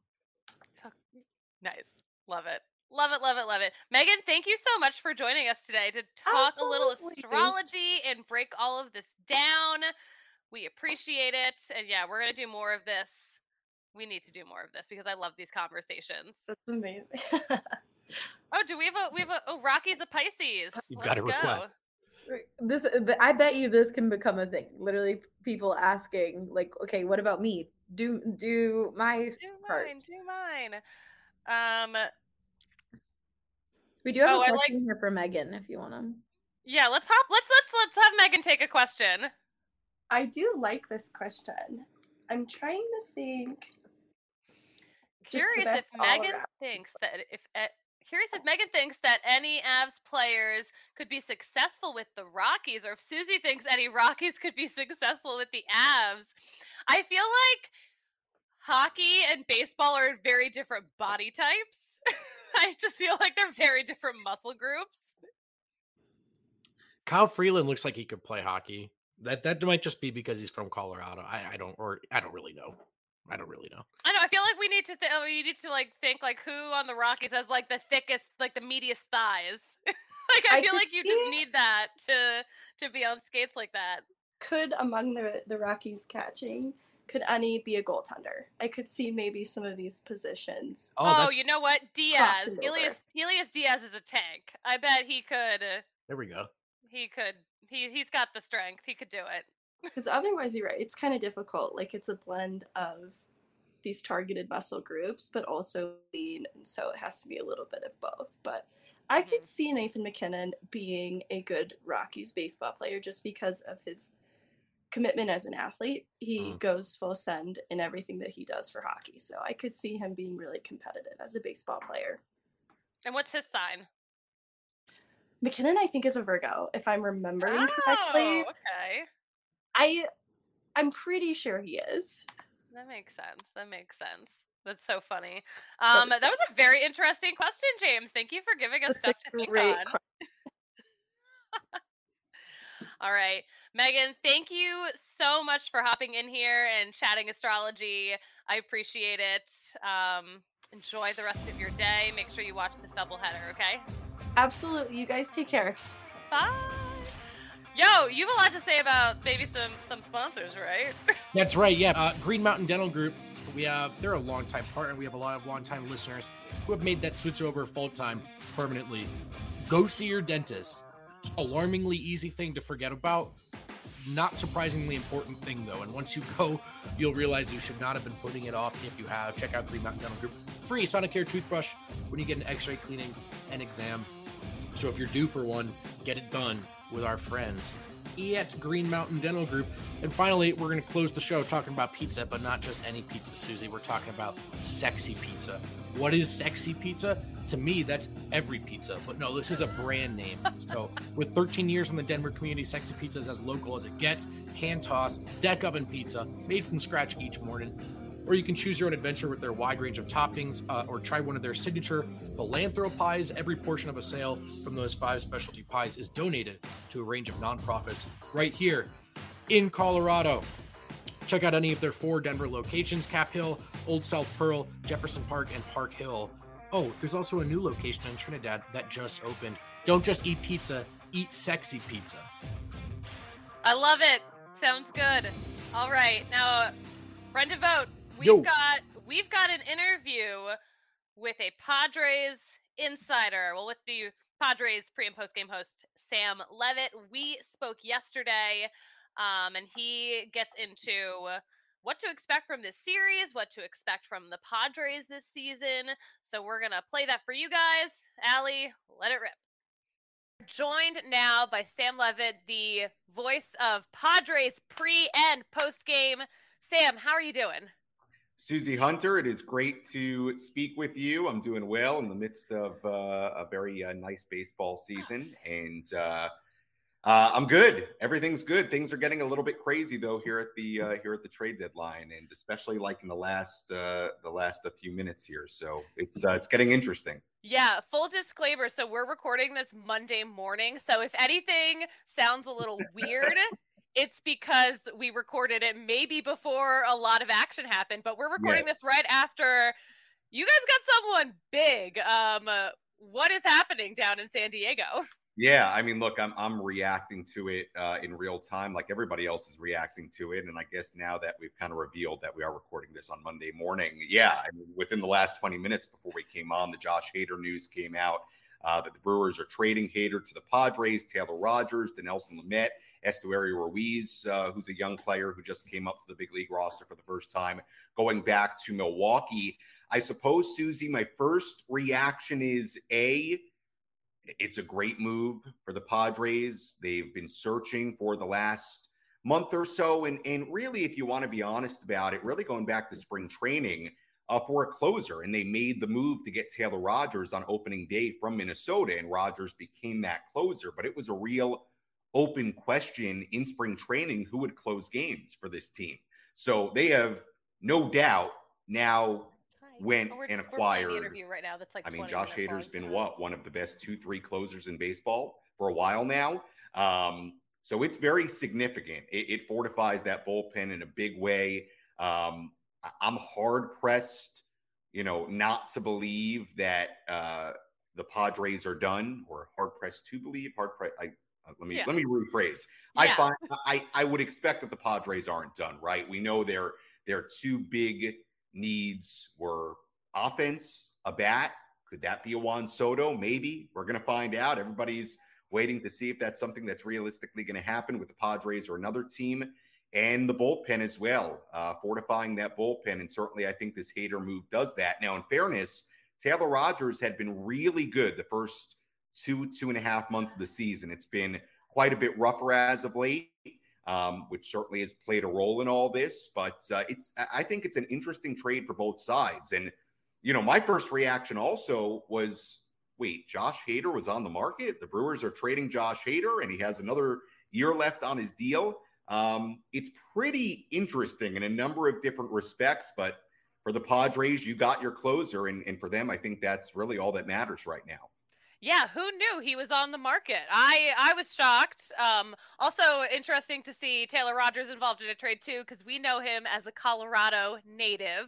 Nice. Love it. Love it, love it, love it. Megan, thank you so much for joining us today to talk a little Absolutely. astrology and break all of this down. We appreciate it. And yeah, we're going to do more of this. We need to do more of this because I love these conversations. That's amazing. Oh, do we have a we have a oh Rocky's a Pisces. You've Let's got a go. request. This, th- I bet you this can become a thing. Literally, people asking like, "Okay, what about me? Do do my Do part?" mine, do mine. Um We do have Oh, I a like- question here for Megan if you want to. yeah, let's hop let's let's let's have Megan take a question. I do like this question. I'm trying to think. Just the Curious if best all Megan around. thinks that if uh, curious if Megan thinks that any Avs players could be successful with the Rockies, or if Susie thinks any Rockies could be successful with the Avs. I feel like hockey and baseball are very different body types. I just feel like they're very different muscle groups. Kyle Freeland looks like he could play hockey. That that might just be because he's from Colorado. I, I don't or I don't really know. I don't really know. I know. I feel like we need to. Th- we need to like think like who on the Rockies has like the thickest, like the meatiest thighs. Like I, I feel could like you see- just need that to to be on skates like that. Could among the the Rockies catching, could any be a goaltender? I could see maybe some of these positions. Oh, Oh, that's, you know what? Diaz, crossing Elias, over. Elias Diaz is a tank. I bet he could. Uh, there we go. he could. He he's got the strength. He could do it. Because otherwise, you're right. It's kind of difficult. Like it's a blend of these targeted muscle groups, but also lean, and so it has to be a little bit of both. But I could Mhm. see Nathan McKinnon being a good Rockies baseball player just because of his commitment as an athlete. He Mhm. goes full send in everything that he does for hockey. So I could see him being really competitive as a baseball player. And what's his sign? McKinnon, I think, is a Virgo, if I'm remembering correctly. Oh, okay. I, I'm pretty sure he is. That makes sense. That makes sense. That's so funny. Um, that, that was a very interesting question, James. Thank you for giving us That's stuff to think on. All right. Megan, thank you so much for hopping in here and chatting astrology. I appreciate it. Um, enjoy the rest of your day. Make sure you watch this doubleheader, okay? Absolutely. You guys take care. Bye. Yo, you have a lot to say about maybe some some sponsors, right? That's right. Yeah. Uh, Green Mountain Dental Group. We have, they're a longtime partner. We have a lot of longtime listeners who have made that switch over full time permanently. Go see your dentist. Alarmingly easy thing to forget about. Not surprisingly important thing though. And once you go, you'll realize you should not have been putting it off. If you have, check out Green Mountain Dental Group. Free Sonicare toothbrush when you get an x-ray cleaning and exam. So if you're due for one, get it done with our friends at Green Mountain Dental Group. And finally, we're going to close the show talking about pizza, but not just any pizza, Susie. We're talking about sexy pizza. What is sexy pizza? To me, that's every pizza. But no, this is a brand name. So with thirteen years in the Denver community, Sexy Pizza is as local as it gets. Hand-tossed, deck oven pizza, made from scratch each morning. Or you can choose your own adventure with their wide range of toppings, uh, or try one of their signature Philanthro pies. Every portion of a sale from those five specialty pies is donated to a range of nonprofits right here in Colorado. Check out any of their four Denver locations: Cap Hill, Old South Pearl, Jefferson Park, and Park Hill. Oh, there's also a new location in Trinidad that just opened. Don't just eat pizza, eat sexy pizza. I love it. Sounds good. All right, now, friend to vote. We've Yo. got we've got an interview with a Padres insider. Well, with the Padres pre and post game host Sam Levitt. We spoke yesterday, um, and he gets into what to expect from this series, what to expect from the Padres this season. So we're gonna play that for you guys. Allie, let it rip. Joined now by Sam Levitt, the voice of Padres pre and post game. Sam, how are you doing? Susie Hunter, it is great to speak with you. I'm doing well in the midst of uh, a very uh, nice baseball season, and uh, uh, I'm good. Everything's good. Things are getting a little bit crazy though here at the uh, here at the trade deadline, and especially like in the last uh, the last a few minutes here. So it's uh, it's getting interesting. Yeah, full disclaimer. So we're recording this Monday morning. So if anything sounds a little weird, it's because we recorded it maybe before a lot of action happened, but we're recording yes. this right after you guys got someone big. Um, uh, what is happening down in San Diego? Yeah, I mean, look, I'm I'm reacting to it uh, in real time, like everybody else is reacting to it. And I guess now that we've kind of revealed that we are recording this on Monday morning, yeah, I mean, within the last twenty minutes before we came on, the Josh Hader news came out uh, that the Brewers are trading Hader to the Padres, Taylor Rogers, Dinelson Lamet, Estuario Ruiz, uh, who's a young player who just came up to the big league roster for the first time, going back to Milwaukee. I suppose, Susie, my first reaction is A, it's a great move for the Padres. They've been searching for the last month or so. And, and really, if you want to be honest about it, really going back to spring training uh, for a closer. And they made the move to get Taylor Rogers on opening day from Minnesota. And Rogers became that closer. But it was a real open question in spring training who would close games for this team. So they have no doubt now went oh, and acquired. The interview right now that's like I mean, Josh Hader's been now. what? One of the best two, three closers in baseball for a while now. Um, so it's very significant. It, it fortifies that bullpen in a big way. Um, I'm hard pressed, you know, not to believe that uh, the Padres are done, or hard pressed to believe. Hard pressed. I uh, let me yeah. let me rephrase. Yeah. I find I I would expect that the Padres aren't done. Right? We know their their two big needs were offense, a bat. Could that be a Juan Soto? Maybe. We're going to find out. Everybody's waiting to see if that's something that's realistically going to happen with the Padres or another team. And the bullpen as well, uh, fortifying that bullpen. And certainly I think this Hader move does that. Now, in fairness, Taylor Rogers had been really good the first two, two and a half months of the season. It's been quite a bit rougher as of late. Um, which certainly has played a role in all this, but uh, it's, I think it's an interesting trade for both sides. And, you know, my first reaction also was, wait, Josh Hader was on the market. The Brewers are trading Josh Hader and he has another year left on his deal. Um, it's pretty interesting in a number of different respects, but for the Padres, you got your closer, and, and for them, I think that's really all that matters right now. Yeah, who knew he was on the market? I I was shocked. Um, also interesting to see Taylor Rogers involved in a trade too, because we know him as a Colorado native.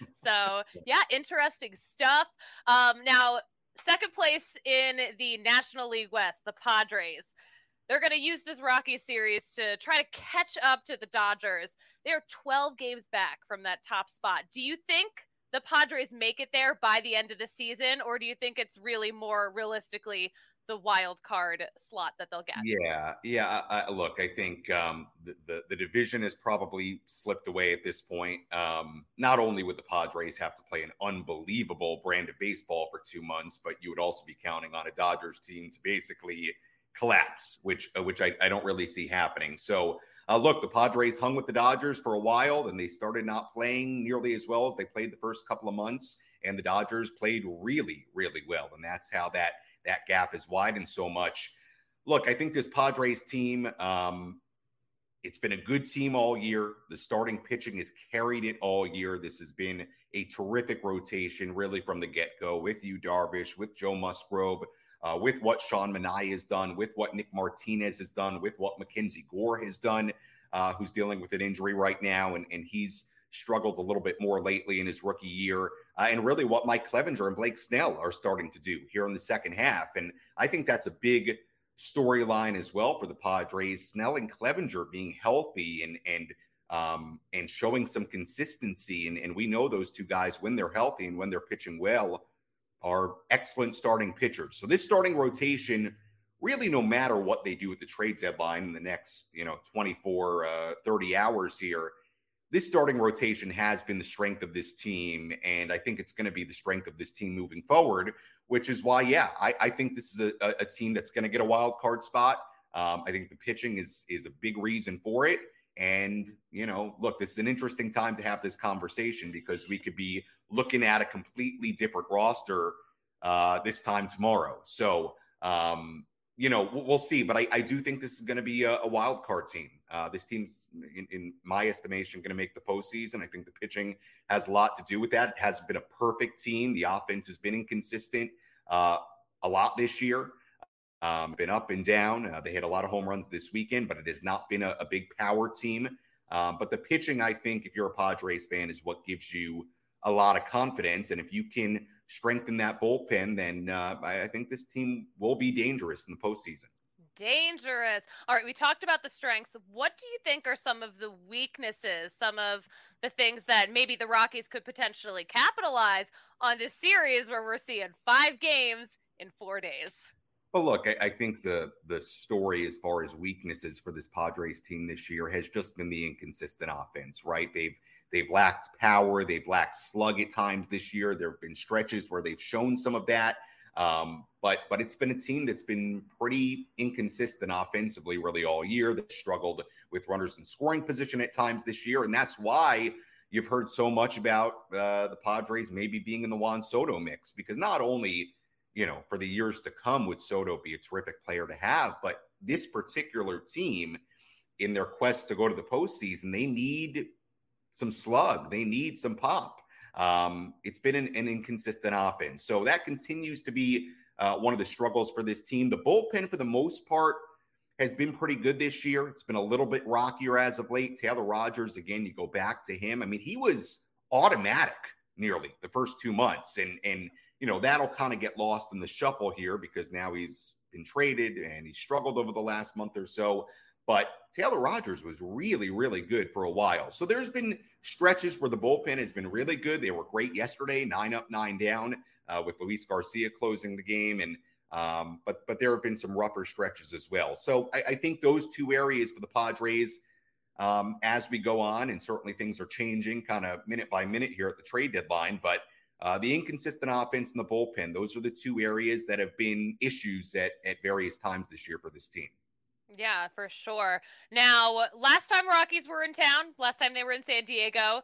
So yeah, interesting stuff. Um, now second place in the National League West, the Padres. They're going to use this Rockies series to try to catch up to the Dodgers. They're twelve games back from that top spot. Do you think the Padres make it there by the end of the season, or do you think it's really more realistically the wild card slot that they'll get? Yeah, yeah. I, I, look, I think um, the, the the division has probably slipped away at this point. Um, not only would the Padres have to play an unbelievable brand of baseball for two months, but you would also be counting on a Dodgers team to basically collapse, which uh, which I, I don't really see happening. So uh, look, the Padres hung with the Dodgers for a while, and they started not playing nearly as well as they played the first couple of months. And the Dodgers played really, really well, and that's how that that gap is widened so much. Look, I think this Padres team, um, it's been a good team all year. The starting pitching has carried it all year. This has been a terrific rotation, really from the get-go, with Yu Darvish, with Joe Musgrove, Uh, with what Sean Manaea has done, with what Nick Martinez has done, with what Mackenzie Gore has done, uh, who's dealing with an injury right now, and, and he's struggled a little bit more lately in his rookie year, uh, and really what Mike Clevenger and Blake Snell are starting to do here in the second half. And I think that's a big storyline as well for the Padres. Snell and Clevenger being healthy and and um, and showing some consistency, and, and we know those two guys, when they're healthy and when they're pitching well, are excellent starting pitchers. So this starting rotation, really no matter what they do at the trade deadline in the next, you know, twenty-four, uh, thirty hours here, this starting rotation has been the strength of this team. And I think it's going to be the strength of this team moving forward, which is why, yeah, I, I think this is a, a team that's going to get a wild card spot. Um, I think the pitching is, is a big reason for it. And, you know, look, this is an interesting time to have this conversation, because we could be looking at a completely different roster uh, this time tomorrow. So, um, you know, we'll, we'll see. But I, I do think this is going to be a, a wild card team. Uh, this team's, in, in my estimation, going to make the postseason. I think the pitching has a lot to do with that. It hasn't been a perfect team. The offense has been inconsistent uh, a lot this year. Um, been up and down. Uh, they hit a lot of home runs this weekend, but it has not been a, a big power team. Um, but the pitching, I think, if you're a Padres fan, is what gives you a lot of confidence. And if you can strengthen that bullpen, then uh, I, I think this team will be dangerous in the postseason. Dangerous. All right, we talked about the strengths. What do you think are some of the weaknesses, some of the things that maybe the Rockies could potentially capitalize on this series where we're seeing five games in four days? Well, look, I, I think the the story as far as weaknesses for this Padres team this year has just been the inconsistent offense, right? They've they've lacked power, they've lacked slug at times this year. There have been stretches where they've shown some of that, um, but but it's been a team that's been pretty inconsistent offensively really all year. They've struggled with runners in scoring position at times this year, and that's why you've heard so much about uh, the Padres maybe being in the Juan Soto mix, because not only, you know, for the years to come would Soto be a terrific player to have, but this particular team, in their quest to go to the postseason, they need some slug. They need some pop. Um, it's been an, an inconsistent offense. So that continues to be uh, one of the struggles for this team. The bullpen, for the most part, has been pretty good this year. It's been a little bit rockier as of late. Taylor Rogers, again, you go back to him. I mean, he was automatic nearly the first two months. And, and, you know, that'll kind of get lost in the shuffle here because now he's been traded and he struggled over the last month or so. But Taylor Rogers was really, really good for a while. So there's been stretches where the bullpen has been really good. They were great yesterday, nine up, nine down, uh, with Luis Garcia closing the game. And um, but but there have been some rougher stretches as well. So I, I think those two areas for the Padres, um, as we go on, and certainly things are changing kind of minute by minute here at the trade deadline. But Uh, the inconsistent offense and the bullpen, those are the two areas that have been issues at, at various times this year for this team. Yeah, for sure. Now, last time Rockies were in town, last time they were in San Diego,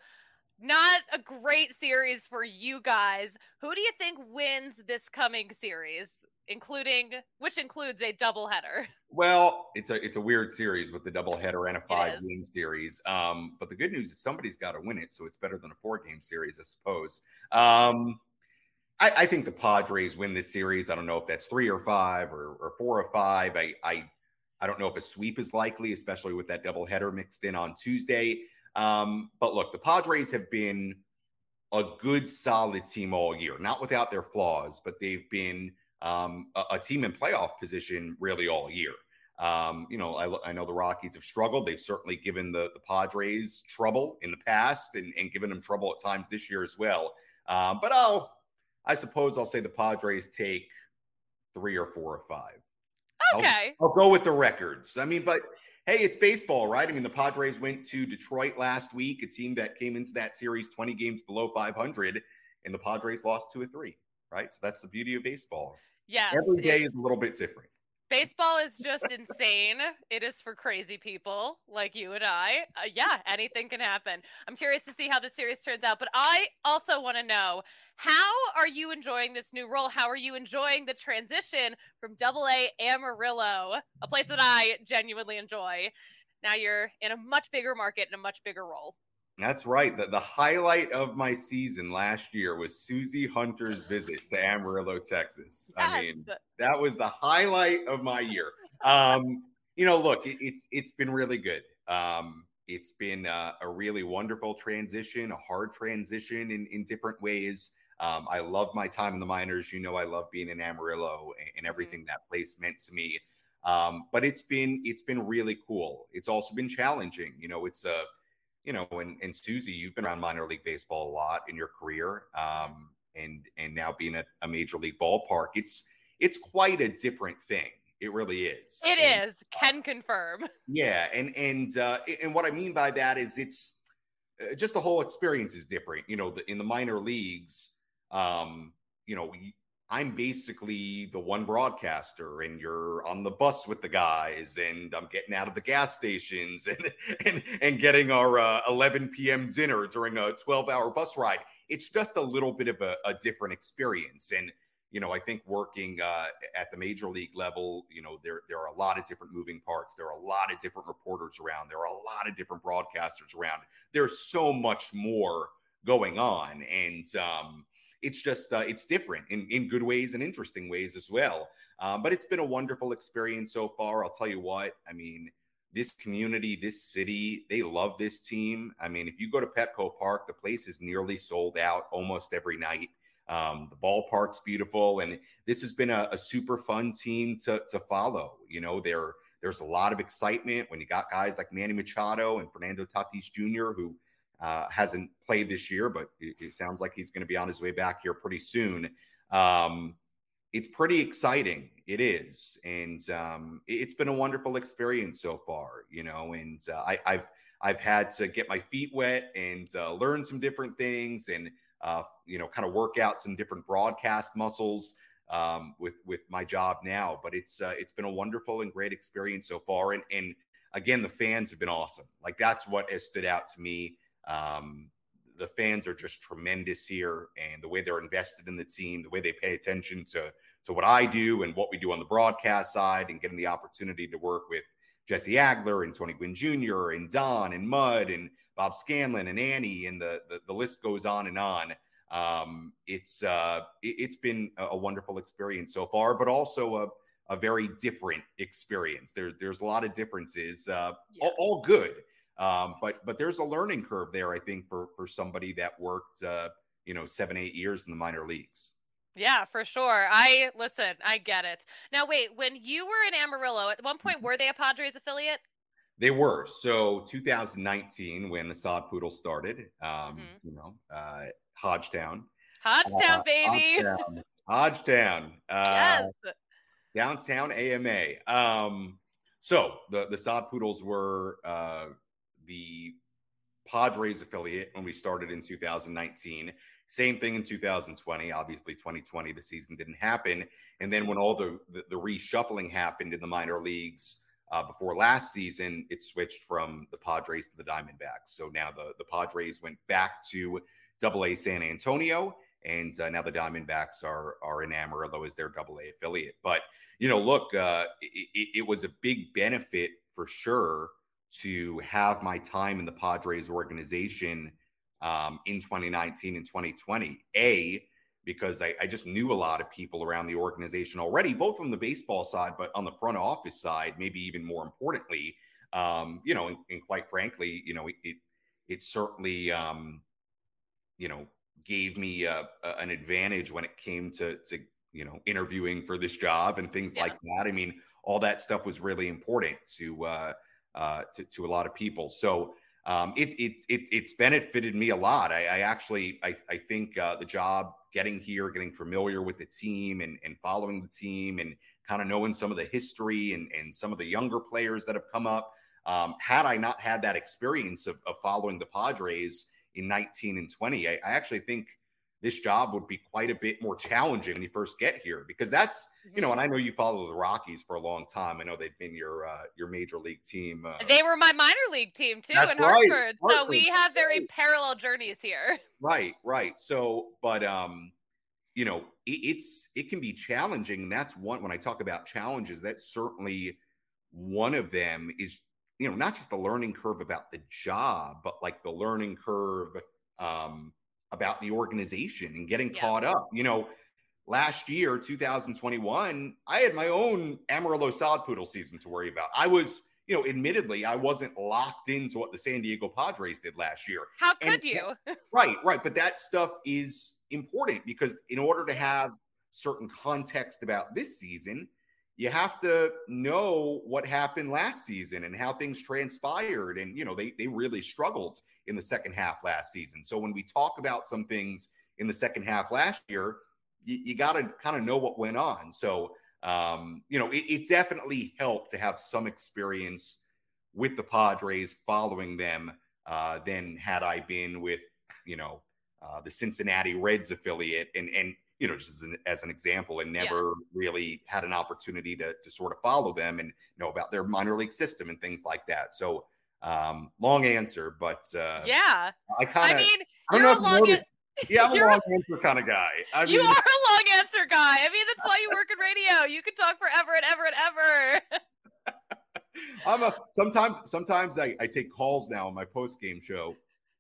not a great series for you guys. Who do you think wins this coming series? including which includes a doubleheader. Well, it's a it's a weird series with the doubleheader and a five game series. Um, but the good news is somebody's got to win it, so it's better than a four game series, I suppose. Um, I, I think the Padres win this series. I don't know if that's three or five or, or four or five. I, I I don't know if a sweep is likely, especially with that doubleheader mixed in on Tuesday. Um, but look, the Padres have been a good, solid team all year, not without their flaws, but they've been um, a, a team in playoff position really all year. Um, you know, I, I know the Rockies have struggled. They've certainly given the, the Padres trouble in the past and, and given them trouble at times this year as well. Um, but I'll, I suppose I'll say the Padres take three or four or five. Okay. I'll, I'll go with the records. I mean, but hey, it's baseball, right? I mean, the Padres went to Detroit last week, a team that came into that series twenty games below five hundred, and the Padres lost two or three, right? So that's the beauty of baseball. Yes. Every day is a little bit different. Baseball is just insane. It is for crazy people like you and I. Uh, yeah, anything can happen. I'm curious to see how the series turns out, but I also want to know, how are you enjoying this new role? How are you enjoying the transition from Double A Amarillo, a place that I genuinely enjoy? Now you're in a much bigger market and a much bigger role. That's right. The, the highlight of my season last year was Susie Hunter's visit to Amarillo, Texas. Yes. I mean, that was the highlight of my year. Um, you know, look, it, it's it's been really good. Um, it's been uh, a really wonderful transition, a hard transition in, in different ways. Um, I love my time in the minors. You know, I love being in Amarillo and, and everything mm-hmm. that place meant to me. Um, but it's been it's been really cool. It's also been challenging. You know, it's a You know, and, and Susie, you've been around minor league baseball a lot in your career, um, and and now being at a major league ballpark, it's it's quite a different thing. It really is. It and, is. Can confirm. Yeah, and and uh, and what I mean by that is it's uh, just the whole experience is different. You know, the, in the minor leagues, um, you know, I'm basically the one broadcaster, and you're on the bus with the guys, and I'm getting out of the gas stations and and, and getting our uh, eleven p.m. dinner during a twelve-hour bus ride. It's just a little bit of a, a different experience. And, you know, I think working uh, at the major league level, you know, there, there are a lot of different moving parts. There are a lot of different reporters around. There are a lot of different broadcasters around. There's so much more going on. And, um, It's just, uh, it's different in, in good ways and interesting ways as well. Um, but it's been a wonderful experience so far. I'll tell you what, I mean, this community, this city, they love this team. I mean, if you go to Petco Park, the place is nearly sold out almost every night. Um, the ballpark's beautiful. And this has been a, a super fun team to, to follow. You know, there, there's a lot of excitement when you got guys like Manny Machado and Fernando Tatis Junior, who Uh, hasn't played this year, but it, it sounds like he's going to be on his way back here pretty soon. Um, it's pretty exciting. It is. And um, it, it's been a wonderful experience so far, you know, and uh, I, I've, I've had to get my feet wet and uh, learn some different things and, uh, you know, kind of work out some different broadcast muscles um, with, with my job now. But it's, uh, it's been a wonderful and great experience so far. And, and again, the fans have been awesome. Like, that's what has stood out to me. Um, the fans are just tremendous here, and the way they're invested in the team, the way they pay attention to, to what I do and what we do on the broadcast side, and getting the opportunity to work with Jesse Agler and Tony Gwynn Junior and Don and Mud and Bob Scanlon and Annie, and the, the, the list goes on and on. Um, it's, uh, it, it's been a, a wonderful experience so far, but also a, a very different experience. There, there's a lot of differences, uh, yeah. all, all good. Um, but but there's a learning curve there, I think, for for somebody that worked, uh, you know, seven, eight years in the minor leagues. Yeah, for sure. I listen, I get it. Now, wait, when you were in Amarillo, at one point, were they a Padres affiliate? They were. So two thousand nineteen, when the Sod Poodle started, um, mm-hmm. you know, uh, Hodgetown. Hodgetown, uh, baby. Hodgetown. Hodgetown. Uh, yes. Downtown A M A. Um, so the, the Sod Poodles were uh, the Padres affiliate when we started in two thousand nineteen. Same thing in two thousand twenty. Obviously, twenty twenty, the season didn't happen. And then when all the, the, the reshuffling happened in the minor leagues uh, before last season, it switched from the Padres to the Diamondbacks. So now the, the Padres went back to Double A San Antonio, and uh, now the Diamondbacks are are in Amarillo as their Double A affiliate. But you know, look, uh, it, it was a big benefit for sure to have my time in the Padres organization um, in twenty nineteen and twenty twenty. A, because I, I just knew a lot of people around the organization already, both from the baseball side, but on the front office side, maybe even more importantly, um, you know, and, and quite frankly, you know, it, it, it certainly, um, you know, gave me a, a, an advantage when it came to, to, you know, interviewing for this job and things yeah. like that. I mean, all that stuff was really important to, uh, uh, to, to a lot of people. So, Um, it, it, it, it's benefited me a lot. I, I actually, I, I think uh, the job getting here, getting familiar with the team and, and following the team and kind of knowing some of the history and, and some of the younger players that have come up. Um, had I not had that experience of, of following the Padres in nineteen and twenty, I, I actually think this job would be quite a bit more challenging when you first get here, because that's, you know, and I know you follow the Rockies for a long time. I know they've been your, uh, your major league team. Uh, they were my minor league team too that's in right. Hartford. Hartford. So we have very parallel journeys here. Right. Right. So, but, um, you know, it, it's, it can be challenging. And that's one, when I talk about challenges, that's certainly one of them is, you know, not just the learning curve about the job, but like the learning curve, um, about the organization and getting yeah. caught up. You know, last year, two thousand twenty-one, I had my own Amarillo Sod Poodle season to worry about. I was, you know, admittedly, I wasn't locked into what the San Diego Padres did last year. How could and, you? Right, right. But that stuff is important because in order to have certain context about this season, you have to know what happened last season and how things transpired. And, you know, they they really struggled in the second half last season. So when we talk about some things in the second half last year, you, you got to kind of know what went on. So, um, you know, it, it definitely helped to have some experience with the Padres following them uh, than had I been with, you know, uh, the Cincinnati Reds affiliate and, and, you know, just as an, as an example, and never yeah. really had an opportunity to, to sort of follow them and know about their minor league system and things like that. So um, long answer, but uh, yeah, I kind of, I mean, I don't you're know a long an- yeah, I'm a you're long answer kind of guy. I you mean, are a long answer guy. I mean, that's why you work in radio. You can talk forever and ever and ever. I'm a, sometimes, sometimes I, I take calls now on my post game show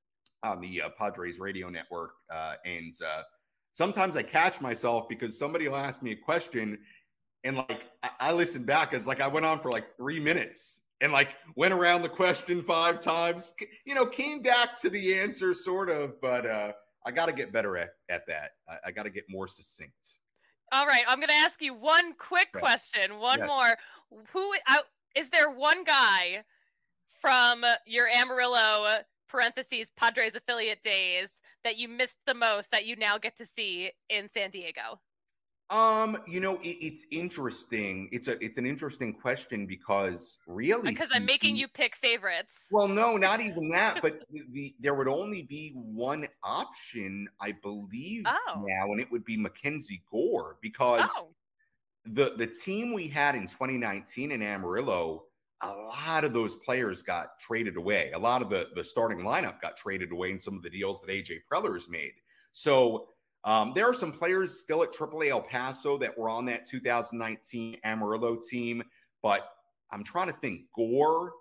on the uh, Padres radio network. Uh, and, uh, sometimes I catch myself because somebody will ask me a question and like, I, I listen back. It's like I went on for like three minutes and like went around the question five times, you know, came back to the answer sort of, but uh, I got to get better at, at that. I, I got to get more succinct. All right. I'm going to ask you one quick yes. question. One yes. more. Who uh, is there one guy from your Amarillo parentheses Padres affiliate days that you missed the most that you now get to see in San Diego? Um, you know, it, it's interesting. It's a it's an interesting question because really, because I'm making you pick favorites. Well, no, not even that. But the, the there would only be one option, I believe, oh. now, and it would be Mackenzie Gore because oh. the the team we had in twenty nineteen in Amarillo, a lot of those players got traded away. A lot of the, the starting lineup got traded away in some of the deals that A J Preller's made. So um, there are some players still at triple A El Paso that were on that two thousand nineteen Amarillo team. But I'm trying to think. Gore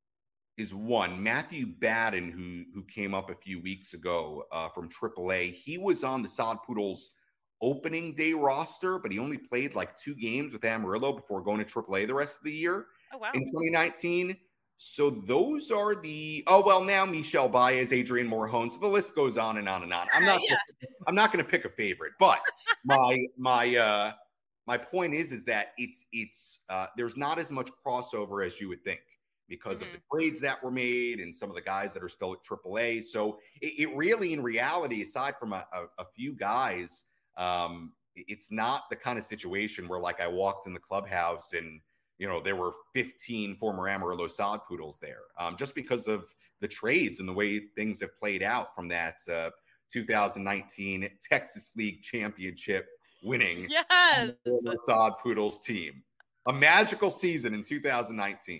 is one. Matthew Batten, who, who came up a few weeks ago uh, from triple A, he was on the Sod Poodles opening day roster, but he only played like two games with Amarillo before going to triple A the rest of the year. Oh, wow. In twenty nineteen. So those are the, oh, well, now Michel Baez, Adrian Morjon. So the list goes on and on and on. I'm not, yeah. I'm not going to pick a favorite, but my, my, uh, my point is, is that it's, it's, uh, there's not as much crossover as you would think because mm-hmm. of the trades that were made and some of the guys that are still at triple A. So it, it really, in reality, aside from a, a, a few guys, um, it's not the kind of situation where like I walked in the clubhouse and, you know, there were fifteen former Amarillo Sod Poodles there, um, just because of the trades and the way things have played out from that uh, two thousand nineteen Texas League Championship winning yes. Sod Poodles team. A magical season in two thousand nineteen.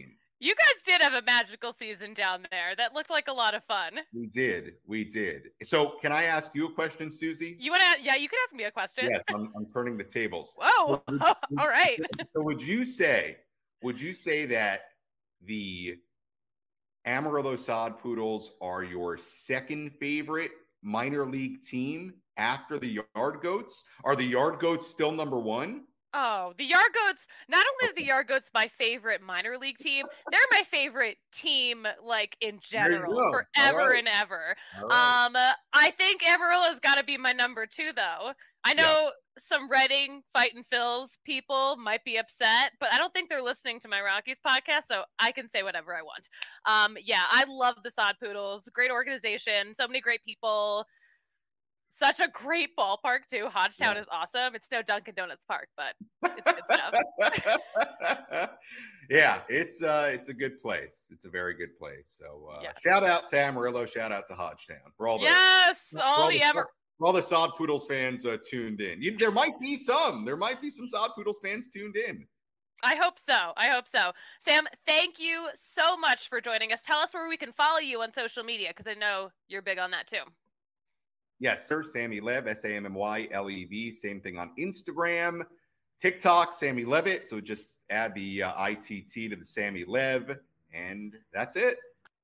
You guys did have a magical season down there. That looked like a lot of fun. We did. We did. So can I ask you a question, Susie? You want to? Yeah, you can ask me a question. Yes, I'm, I'm turning the tables. Whoa. So would, All right. So would you say, would you say that the Amarillo Sod Poodles are your second favorite minor league team after the Yard Goats? Are the Yard Goats still number one? Oh, the Yard Goats, not only are the Yard Goats my favorite minor league team, they're my favorite team, like, in general, forever right. and ever. Right. Um, uh, I think Amarillo's got to be my number two, though. I know yeah. some Reading Fight and Phils people might be upset, but I don't think they're listening to my Rockies podcast, so I can say whatever I want. Um, yeah, I love the Sod Poodles. Great organization, so many great people. Such a great ballpark, too. Hodgetown yeah. is awesome. It's no Dunkin' Donuts Park, but it's good stuff. yeah, it's uh, it's a good place. It's a very good place. So uh, yes. shout out to Amarillo. Shout out to Hodgetown. For all the, yes, for all, all the, the Amar- for all the Sod Poodles fans uh, tuned in. You, there might be some. There might be some Sod Poodles fans tuned in. I hope so. I hope so. Sam, thank you so much for joining us. Tell us where we can follow you on social media, because I know you're big on that too. Yes, sir. Sammy Lev, S A M M Y L E V. Same thing on Instagram, TikTok, Sammy Levitt. So just add the uh, I T T to the Sammy Lev, and that's it.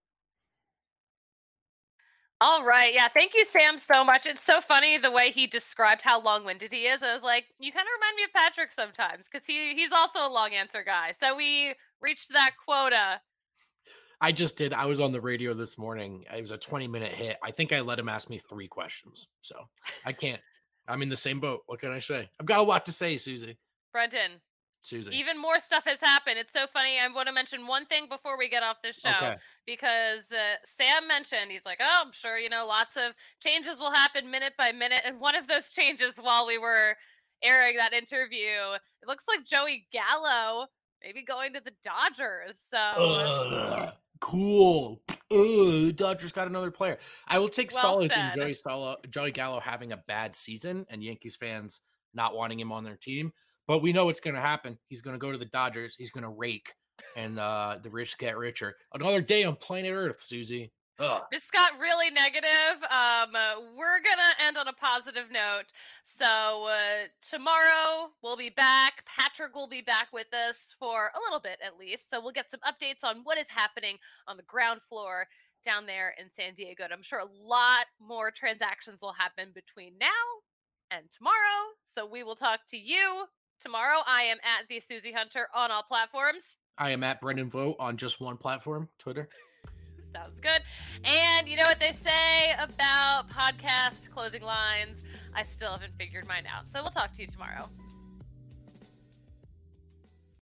All right. Yeah. Thank you, Sam, so much. It's so funny the way he described how long-winded he is. I was like, you kind of remind me of Patrick sometimes, because he, he's also a long answer guy. So we reached that quota. I just did. I was on the radio this morning. It was a twenty minute hit. I think I let him ask me three questions. So I can't. I'm in the same boat. What can I say? I've got a lot to say, Susie. Brendan. Susie. Even more stuff has happened. It's so funny. I want to mention one thing before we get off this show, okay. because uh, Sam mentioned, he's like, oh, I'm sure, you know, lots of changes will happen minute by minute. And one of those changes while we were airing that interview, it looks like Joey Gallo maybe going to the Dodgers. So uh, cool. Uh, Dodgers got another player. I will take well solace said. in Joey, Solo, Joey Gallo having a bad season and Yankees fans not wanting him on their team. But we know what's going to happen. He's going to go to the Dodgers. He's going to rake, and uh, the rich get richer. Another day on planet Earth, Susie. Ugh. This got really negative. Um, uh, we're going to end on a positive note. So uh, tomorrow we'll be back. Patrick will be back with us for a little bit at least. So we'll get some updates on what is happening on the ground floor down there in San Diego. And I'm sure a lot more transactions will happen between now and tomorrow. So we will talk to you tomorrow. I am at the Susie Hunter on all platforms. I am at Brendan Vogt on just one platform, Twitter. Sounds good. And you know what they say about podcast closing lines? I still haven't figured mine out. So we'll talk to you tomorrow.